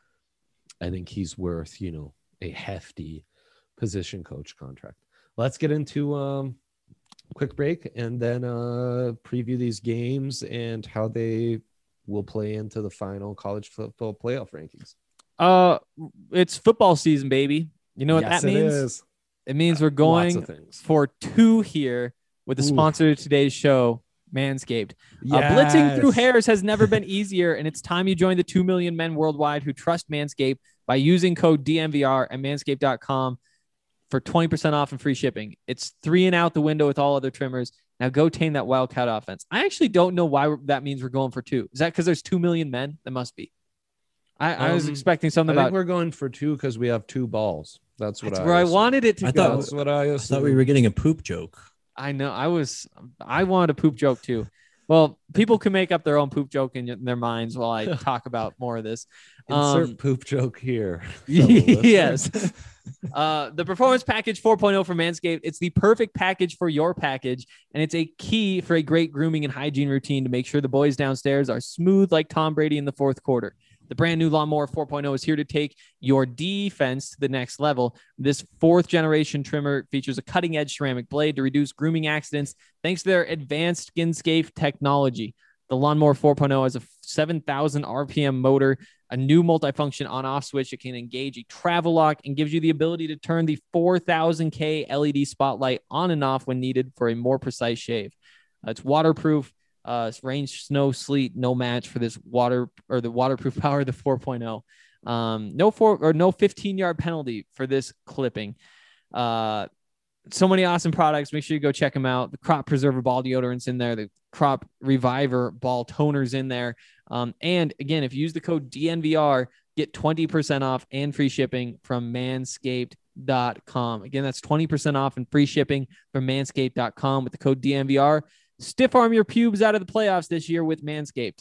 I think he's worth, you know, a hefty position coach contract. Let's get into um, quick break and then uh, preview these games and how they will play into the final college football playoff rankings. Uh, it's football season, baby. You know what Yes, that it means? is. It means we're Lots going of things. for two here with the Ooh. sponsor of today's show, Manscaped. Uh, blitzing through Yes. hairs has never been easier, and it's time you join the two million men worldwide who trust Manscaped by using code D M V R at manscaped dot com for twenty percent off and free shipping. It's three and out the window with all other trimmers. Now go tame that Wildcat offense. I actually don't know why that means we're going for two. Is that because there's two million men? That must be. I, I was Um, expecting I something think about. we're going for two because we have two balls. That's what That's I where I assumed. wanted it to I go. thought- That's what I I assumed. thought we were getting a poop joke. I know. I was. I wanted a poop joke too. Well, people can make up their own poop joke in their minds while I talk about more of this. Insert Um, poop joke here. fellow listeners. yes. Uh, the Performance Package four point oh from Manscaped. It's the perfect package for your package, and it's a key for a great grooming and hygiene routine to make sure the boys downstairs are smooth like Tom Brady in the fourth quarter. The brand new Lawnmower four point oh is here to take your defense to the next level. This fourth generation trimmer features a cutting edge ceramic blade to reduce grooming accidents thanks to their advanced skin-safe technology. The Lawnmower four point oh has a seven thousand R P M motor, a new multifunction on-off switch that can engage a travel lock and gives you the ability to turn the four thousand K L E D spotlight on and off when needed for a more precise shave. Uh, it's waterproof. Uh, rain, snow, sleet, no match for this water or the waterproof power of the four point oh. Um, no four or no fifteen yard penalty for this clipping. Uh, so many awesome products. Make sure you go check them out. The Crop Preserver ball deodorant's in there. The Crop Reviver ball toner's in there. Um, and again, if you use the code D N V R, get twenty percent off and free shipping from manscaped dot com. Again, that's twenty percent off and free shipping from manscaped dot com with the code D N V R. Stiff arm your pubes out of the playoffs this year with Manscaped.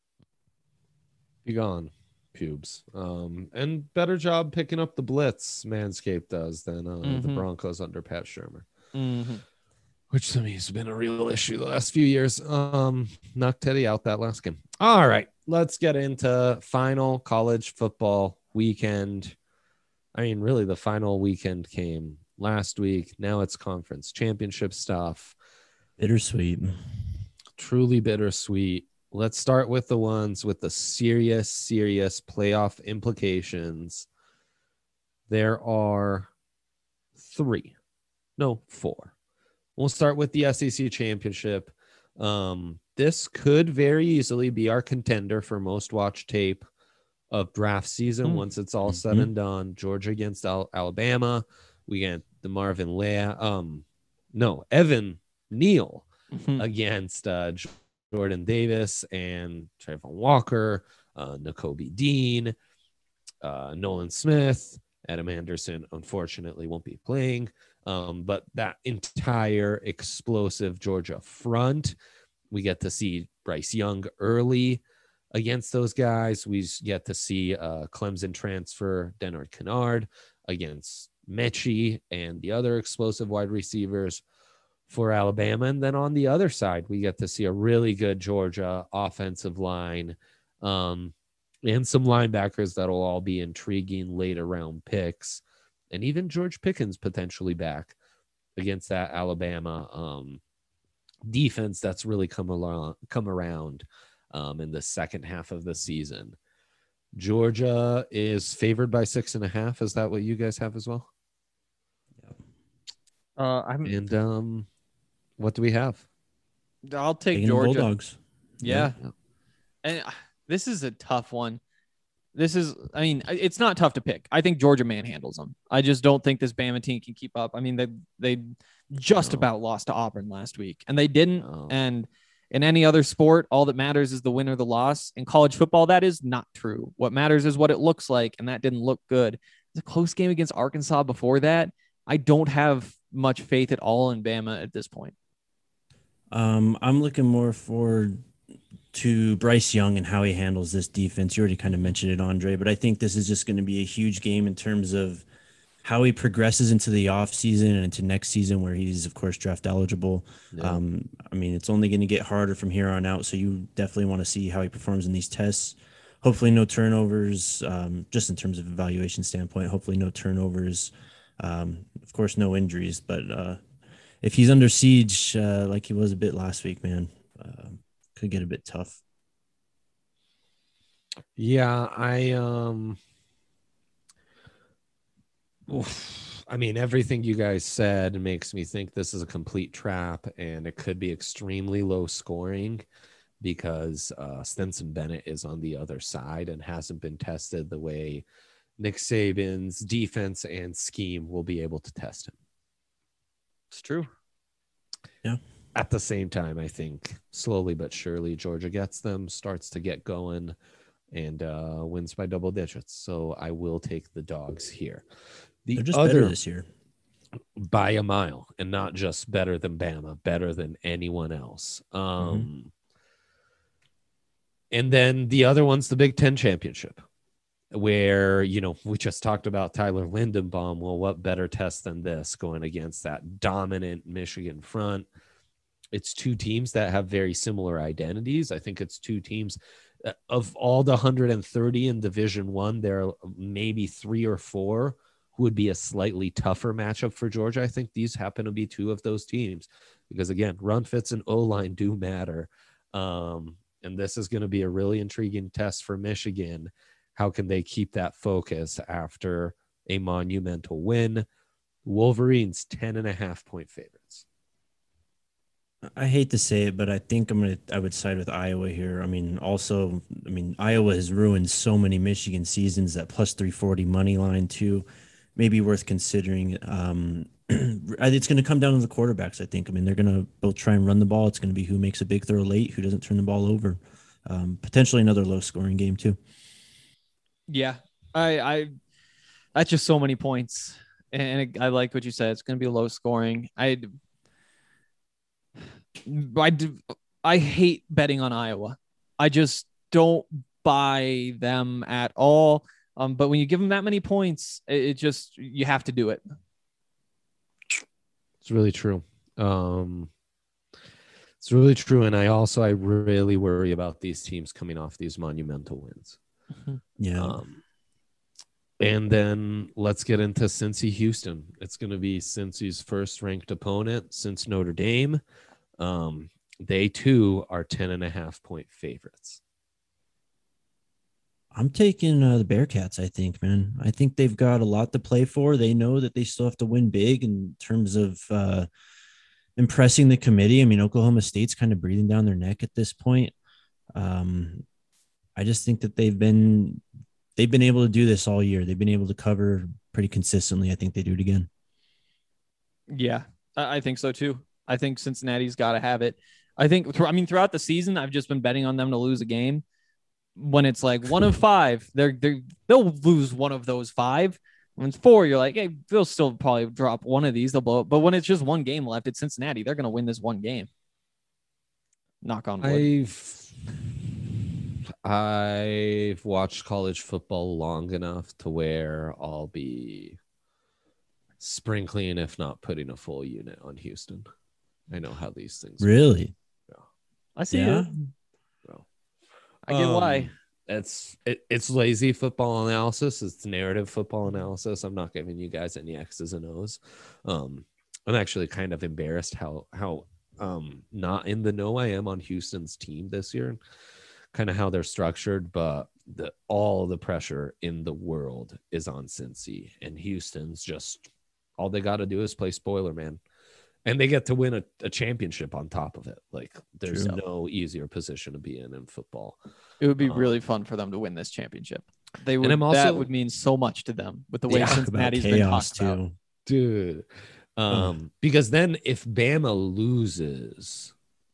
Be gone, pubes. Um, and better job picking up the blitz, Manscaped does, than uh, Mm-hmm. the Broncos under Pat Shermer. Mm-hmm. Which to me has been a real issue the last few years. Um, knocked Teddy out that last game. All right, let's get into final college football weekend. I mean, really, the final weekend came last week. Now it's conference championship stuff. Bittersweet. Truly bittersweet. Let's start with the ones with the serious, serious playoff implications. There are three, no, four. We'll start with the S E C championship. Um, this could very easily be our contender for most watched tape of draft season Mm. once it's all said Mhm. and done. Georgia against Al- Alabama. We get the Marvin Leah. Um, no, Evan Neal Mm-hmm. against uh, Jordan Davis and Trayvon Walker, uh, N'Kobe Dean, uh, Nolan Smith. Adam Anderson, unfortunately, won't be playing. Um, but that entire explosive Georgia front, we get to see Bryce Young early against those guys. We get to see uh, Clemson transfer Denard Kennard against Mechie and the other explosive wide receivers for Alabama. And then on the other side, we get to see a really good Georgia offensive line um, and some linebackers that'll all be intriguing later round picks. And even George Pickens potentially back against that Alabama um, defense that's really come along, come around um, in the second half of the season. Georgia is favored by six and a half. Is that what you guys have as well? Uh, I'm, And um, what do we have? I'll take Taking the Georgia. Bulldogs. Yeah. Yeah. And uh, this is a tough one. This is, I mean, it's not tough to pick. I think Georgia manhandles them. I just don't think this Bama team can keep up. I mean, they they just No. about lost to Auburn last week, and they didn't. No. And in any other sport, all that matters is the win or the loss. In college football, that is not true. What matters is what it looks like, and that didn't look good. The close game against Arkansas before that, I don't have much faith at all in Bama at this point. Um, I'm looking more forward to Bryce Young and how he handles this defense. You already kind of mentioned it, Andre, but I think this is just going to be a huge game in terms of how he progresses into the offseason and into next season where he's, of course, draft eligible. Yeah. Um, I mean, it's only going to get harder from here on out, so you definitely want to see how he performs in these tests. Hopefully no turnovers, um, just in terms of evaluation standpoint, hopefully no turnovers. Um, of course, no injuries, but uh, if he's under siege uh, like he was a bit last week, man, uh, could get a bit tough. Yeah, I um oof. I mean, everything you guys said makes me think this is a complete trap and it could be extremely low scoring because uh, Stetson Bennett is on the other side and hasn't been tested the way Nick Saban's defense and scheme will be able to test him. It's true. At the same time, I think slowly but surely Georgia gets them, starts to get going, and uh, wins by double digits. So I will take the dogs here. The They're just other better this year. by a mile, and not just better than Bama, better than anyone else. Um, Mm-hmm. And then the other one's the Big Ten championship, where, you know, we just talked about Tyler Lindenbaum. Well, what better test than this going against that dominant Michigan front? It's two teams that have very similar identities. I think it's two teams uh, of all the one hundred thirty in Division One, there are maybe three or four who would be a slightly tougher matchup for Georgia. I think these happen to be two of those teams because, again, run fits and O-line do matter. Um, and this is going to be a really intriguing test for Michigan. How can they keep that focus after a monumental win? Wolverines, ten and a half point favorites. I hate to say it, but I think I'm gonna. I would side with Iowa here. I mean, also, I mean, Iowa has ruined so many Michigan seasons. That plus three forty money line too, maybe worth considering. Um, it's going to come down to the quarterbacks. I think. I mean, they're going to both try and run the ball. It's going to be who makes a big throw late, who doesn't turn the ball over. Um, potentially another low scoring game too. Yeah, I, I, that's just so many points, and I like what you said. It's going to be low scoring. I. I, I hate betting on Iowa. I just don't buy them at all. Um, but when you give them that many points, it, it just, you have to do it. It's really true. Um, it's really true. And I also, I really worry about these teams coming off these monumental wins. Yeah. Um, and then let's get into Cincy Houston. It's going to be Cincy's first ranked opponent since Notre Dame. Um, they too are ten and a half point favorites. I'm taking uh, the Bearcats, I think, man. I think they've got a lot to play for. They know that they still have to win big in terms of uh, impressing the committee. I mean, Oklahoma State's kind of breathing down their neck at this point. Um, I just think that they've been they've been able to do this all year. They've been able to cover pretty consistently. I think they do it again. Yeah, I think so too. I think Cincinnati's got to have it. I think, I mean, throughout the season, I've just been betting on them to lose a game. When it's like one of five, they're, they're, they'll lose one of those five. When it's four, you're like, hey, they'll still probably drop one of these. They'll blow it. But when it's just one game left, it's Cincinnati. They're going to win this one game. Knock on wood. I've, I've watched college football long enough to where I'll be sprinkling, if not putting a full unit on Houston. I know how these things really. Work. I see Yeah. it. So, I get um, why. It's it, it's lazy football analysis. It's narrative football analysis. I'm not giving you guys any X's and O's. Um, I'm actually kind of embarrassed how how um not in the know I am on Houston's team this year, kind of how they're structured. But the all the pressure in the world is on Cincy, and Houston's just all they got to do is play spoiler, man. And they get to win a, a championship on top of it. Like, there's True. no easier position to be in in football. It would be um, really fun for them to win this championship. They would. I'm also- that would mean so much to them with the way Yeah. Talk about Cincinnati's been chaos talked about. too. Dude. Um, because then if Bama loses,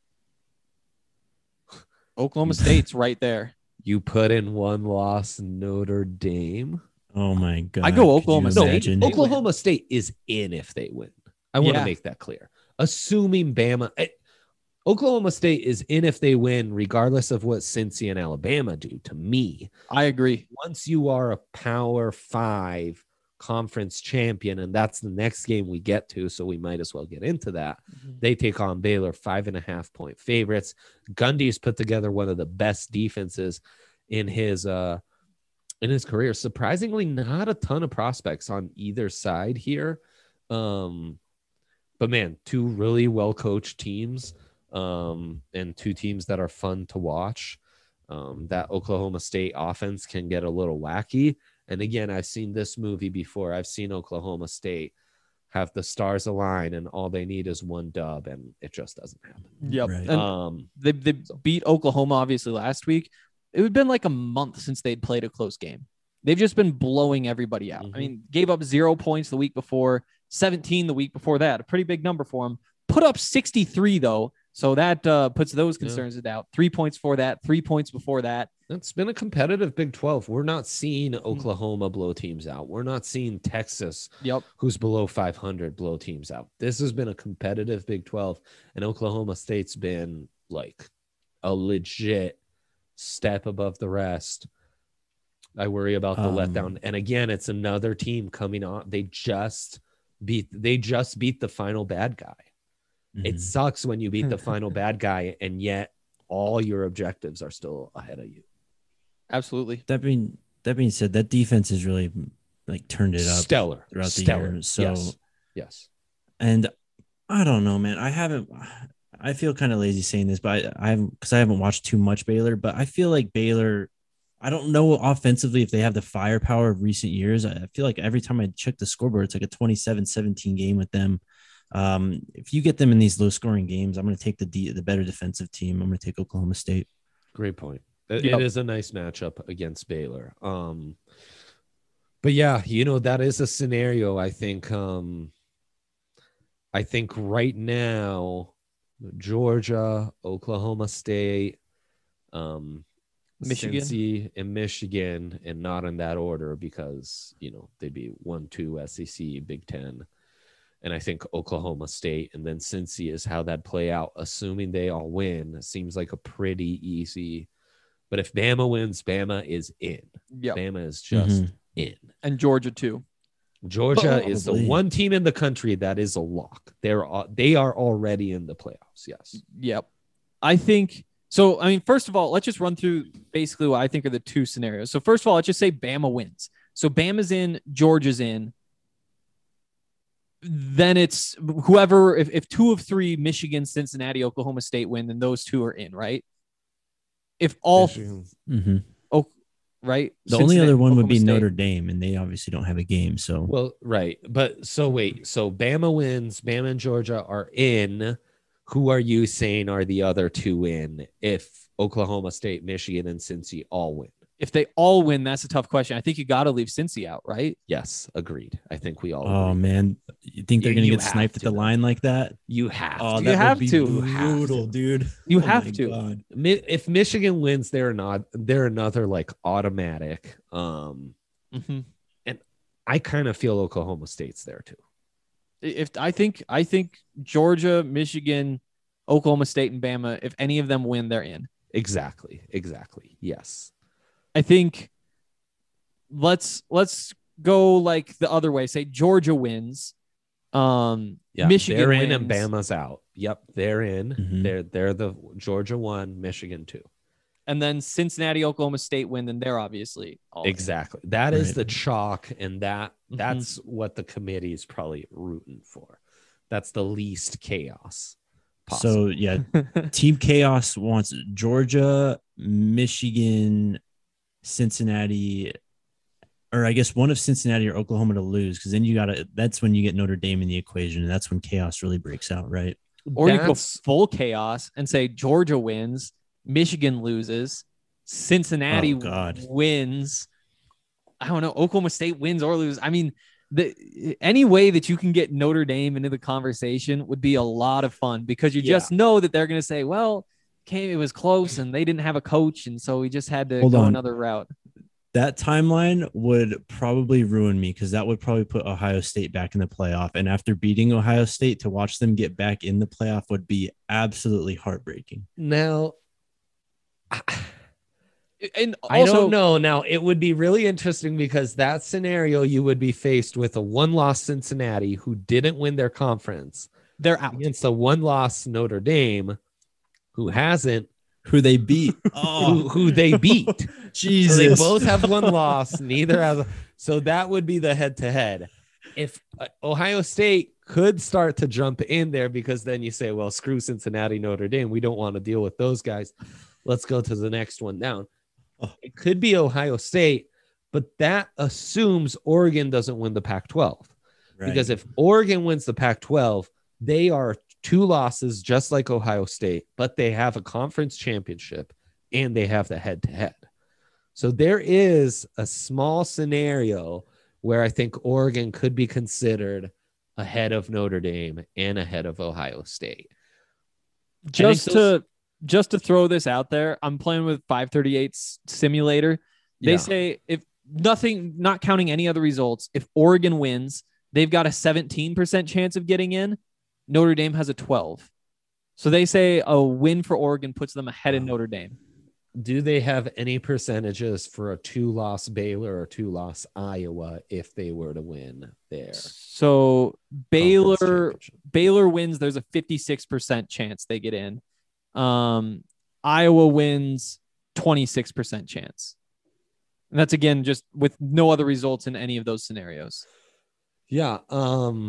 Oklahoma State's right there. you put in one loss Notre Dame. Oh my god! I go Could you Oklahoma No, State. imagine? They Oklahoma State is in if they win. I want to Yeah. make that clear. Assuming Bama, eh, Oklahoma State is in if they win, regardless of what Cincy and Alabama do. To me, I agree. once you are a Power Five conference champion, and that's the next game we get to, so we might as well get into that. They take on Baylor, five and a half point favorites. Gundy's put together one of the best defenses in his uh in his career. Surprisingly, not a ton of prospects on either side here. Um, but man, two really well coached teams, um, and two teams that are fun to watch. Um, that Oklahoma State offense can get a little wacky. And again, I've seen this movie before. I've seen Oklahoma State have the stars align and all they need is one dub, and it just doesn't happen. Yep. Right. And Um, they they beat Oklahoma obviously last week. It had been like a month since they'd played a close game. They've just been blowing everybody out. Mhm. I mean, gave up zero points the week before, seventeen the week before that. A pretty big number for them. Put up sixty-three though, so that uh, puts those concerns yeah. out. Three points for that. Three points before that. It's been a competitive Big twelve. We're not seeing Oklahoma blow teams out. We're not seeing Texas, Yep. who's below five hundred, blow teams out. This has been a competitive Big twelve, and Oklahoma State's been like a legit step above the rest. I worry about the Um, letdown. And again, it's another team coming on. They just beat they just beat the final bad guy. It Mhm. sucks when you beat the final bad guy and yet all your objectives are still ahead of you. Absolutely. That being that being said, that defense has really like turned it up Stellar throughout the Stellar. year. So, yes. yes. and I don't know, man. I haven't. I feel kind of lazy saying this, but I, I haven't because I haven't watched too much Baylor. But I feel like Baylor. I don't know offensively if they have the firepower of recent years. I feel like every time I check the scoreboard, it's like a twenty-seven seventeen game with them. Um, if you get them in these low scoring games, I'm going to take the D, the better defensive team. I'm going to take Oklahoma State. Great point. It, Yep. it is a nice matchup against Baylor. Um, but yeah, you know, that is a scenario. I think, um, I think right now, Georgia, Oklahoma State, um, Michigan. Cincy, and Michigan, and not in that order because, you know, they'd be one, two, S E C, Big Ten. And I think Oklahoma State and then Cincy is how that play out, assuming they all win. Seems like a pretty easy. But if Bama wins, Bama is in. Yeah. Bama is just Mhm. in. And Georgia too. Georgia is the Probably. one team in the country that is a lock. They're al- they are already in the playoffs. Yes. Yep. I think so. I mean, first of all, let's just run through basically what I think are the two scenarios. So first of all, let's just say Bama wins. So Bama's in, Georgia's in. Then it's whoever, if, if two of three, Michigan, Cincinnati, Oklahoma State win, then those two are in, right? If all, Michigan. Mhm. oh, right? The only Cincinnati, other one would Oklahoma be State. Notre Dame, and they obviously don't have a game. So Well, right. But so wait. So Bama wins. Bama and Georgia are in. Who are you saying are the other two in if Oklahoma State, Michigan, and Cincy all win? If they all win, that's a tough question. I think you got to leave Cincy out, right? Yes, agreed. I think we all oh agree. man, you think they're You- gonna you get have sniped at to, the though. line like that? You have Oh, to. that You have would be to. You have to. brutal, dude. You Oh have my to. God. Mi- If Michigan wins, they're not. They're another like automatic. Um, Mm-hmm. I kind of feel Oklahoma State's there too. If I think, I think Georgia, Michigan, Oklahoma State, and Bama, if any of them win, they're in. Exactly. Exactly. Yes. I think let's let's go like the other way. Say Georgia wins. Um, Yeah. Michigan they're wins. in and Bama's out. Yep. They're in. Mhm. They're they're the Georgia one, Michigan two. And then Cincinnati, Oklahoma State win, then they're obviously all in. Exactly. That is Right. the chalk, and that Mhm. that's what the committee is probably rooting for. That's the least chaos possible. So yeah, Team Chaos wants Georgia, Michigan, Cincinnati, or I guess one of Cincinnati or Oklahoma to lose, because then you gotta. That's when you get Notre Dame in the equation, and that's when chaos really breaks out, right? Or you go That's- full chaos and say Georgia wins, Michigan loses, Cincinnati Oh, God. wins. I don't know. Oklahoma State wins or lose. I mean, the any way that you can get Notre Dame into the conversation would be a lot of fun because you Yeah. just know that they're going to say, well, okay, it was close and they didn't have a coach. And so we just had to Hold go on. another route. That timeline would probably ruin me because that would probably put Ohio State back in the playoff. And after beating Ohio State, to watch them get back in the playoff would be absolutely heartbreaking. now. And I also, don't know. Now, it would be really interesting because that scenario, you would be faced with a one-loss Cincinnati who didn't win their conference they're out. against a one-loss Notre Dame who hasn't, Who they beat? who, Oh, who they beat. So Jesus. they both have one loss. Neither has. So that would be the head-to-head. If uh, Ohio State could start to jump in there, because then you say, well, screw Cincinnati, Notre Dame. We don't want to deal with those guys. Let's go to the next one down. Oh. It could be Ohio State, but that assumes Oregon doesn't win the Pac twelve. Right. Because if Oregon wins the Pac twelve, they are two losses just like Ohio State, but they have a conference championship and they have the head-to-head. So there is a small scenario where I think Oregon could be considered ahead of Notre Dame and ahead of Ohio State. just think those- to just to throw this out there, I'm playing with five thirty-eight's simulator. They Yeah. say if nothing, not counting any other results, if Oregon wins, they've got a seventeen percent chance of getting in. Notre Dame has a twelve. So they say a win for Oregon puts them ahead of Wow. Notre Dame. Do they have any percentages for a two-loss Baylor or two-loss Iowa if they were to win there? So Conference Baylor championship? Baylor wins, there's a fifty-six percent chance they get in. Um, Iowa wins, twenty-six percent chance. And that's again just with no other results in any of those scenarios. Yeah. Um.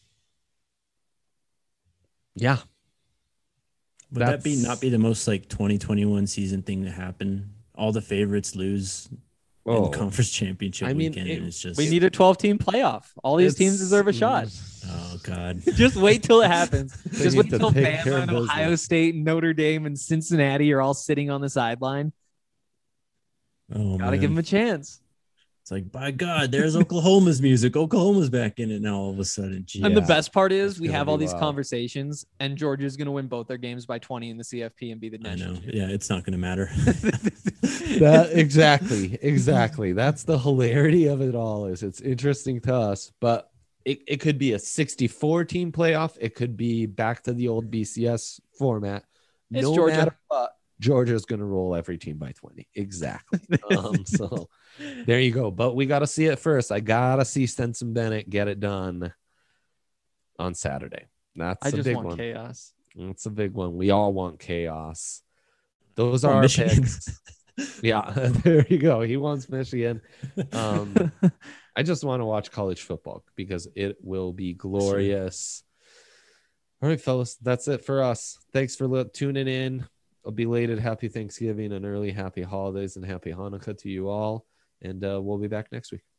Yeah. Would that be That's- not be the most like twenty twenty-one season thing to happen? All the favorites lose Oh, in conference championship I mean, weekend, it- and it's just We need a twelve team playoff. All these teams it's- deserve a shot. oh god. Just wait till it happens. They Just need wait to till take care Bama of and business. Ohio State, Notre Dame, and Cincinnati are all sitting on the sideline. Oh Gotta man. give them a chance. It's like, by God, there's Oklahoma's music. Oklahoma's back in it now all of a sudden. Gee. And the Yeah, best part is it's we gonna have be all these wild. conversations, and Georgia's going to win both their games by twenty in the C F P and be the I national know. Yeah, it's not going to matter. that exactly, exactly. That's the hilarity of it all. Is it's interesting to us, but it, it could be a sixty-four team playoff. It could be back to the old B C S format. It's no Georgia. matter what, Georgia's going to roll every team by twenty. Exactly. um, so there you go. But we got to see it first. I got to see Stenson Bennett get it done on Saturday. That's I a just big want one. chaos. That's a big one. We all want chaos. Those Oh, are our Michigan. picks. Yeah, there you go. He wants Michigan. Um, I just want to watch college football because it will be glorious. All right, fellas, that's it for us. Thanks for li- tuning in. A belated happy Thanksgiving and early happy holidays and happy Hanukkah to you all. And uh, we'll be back next week.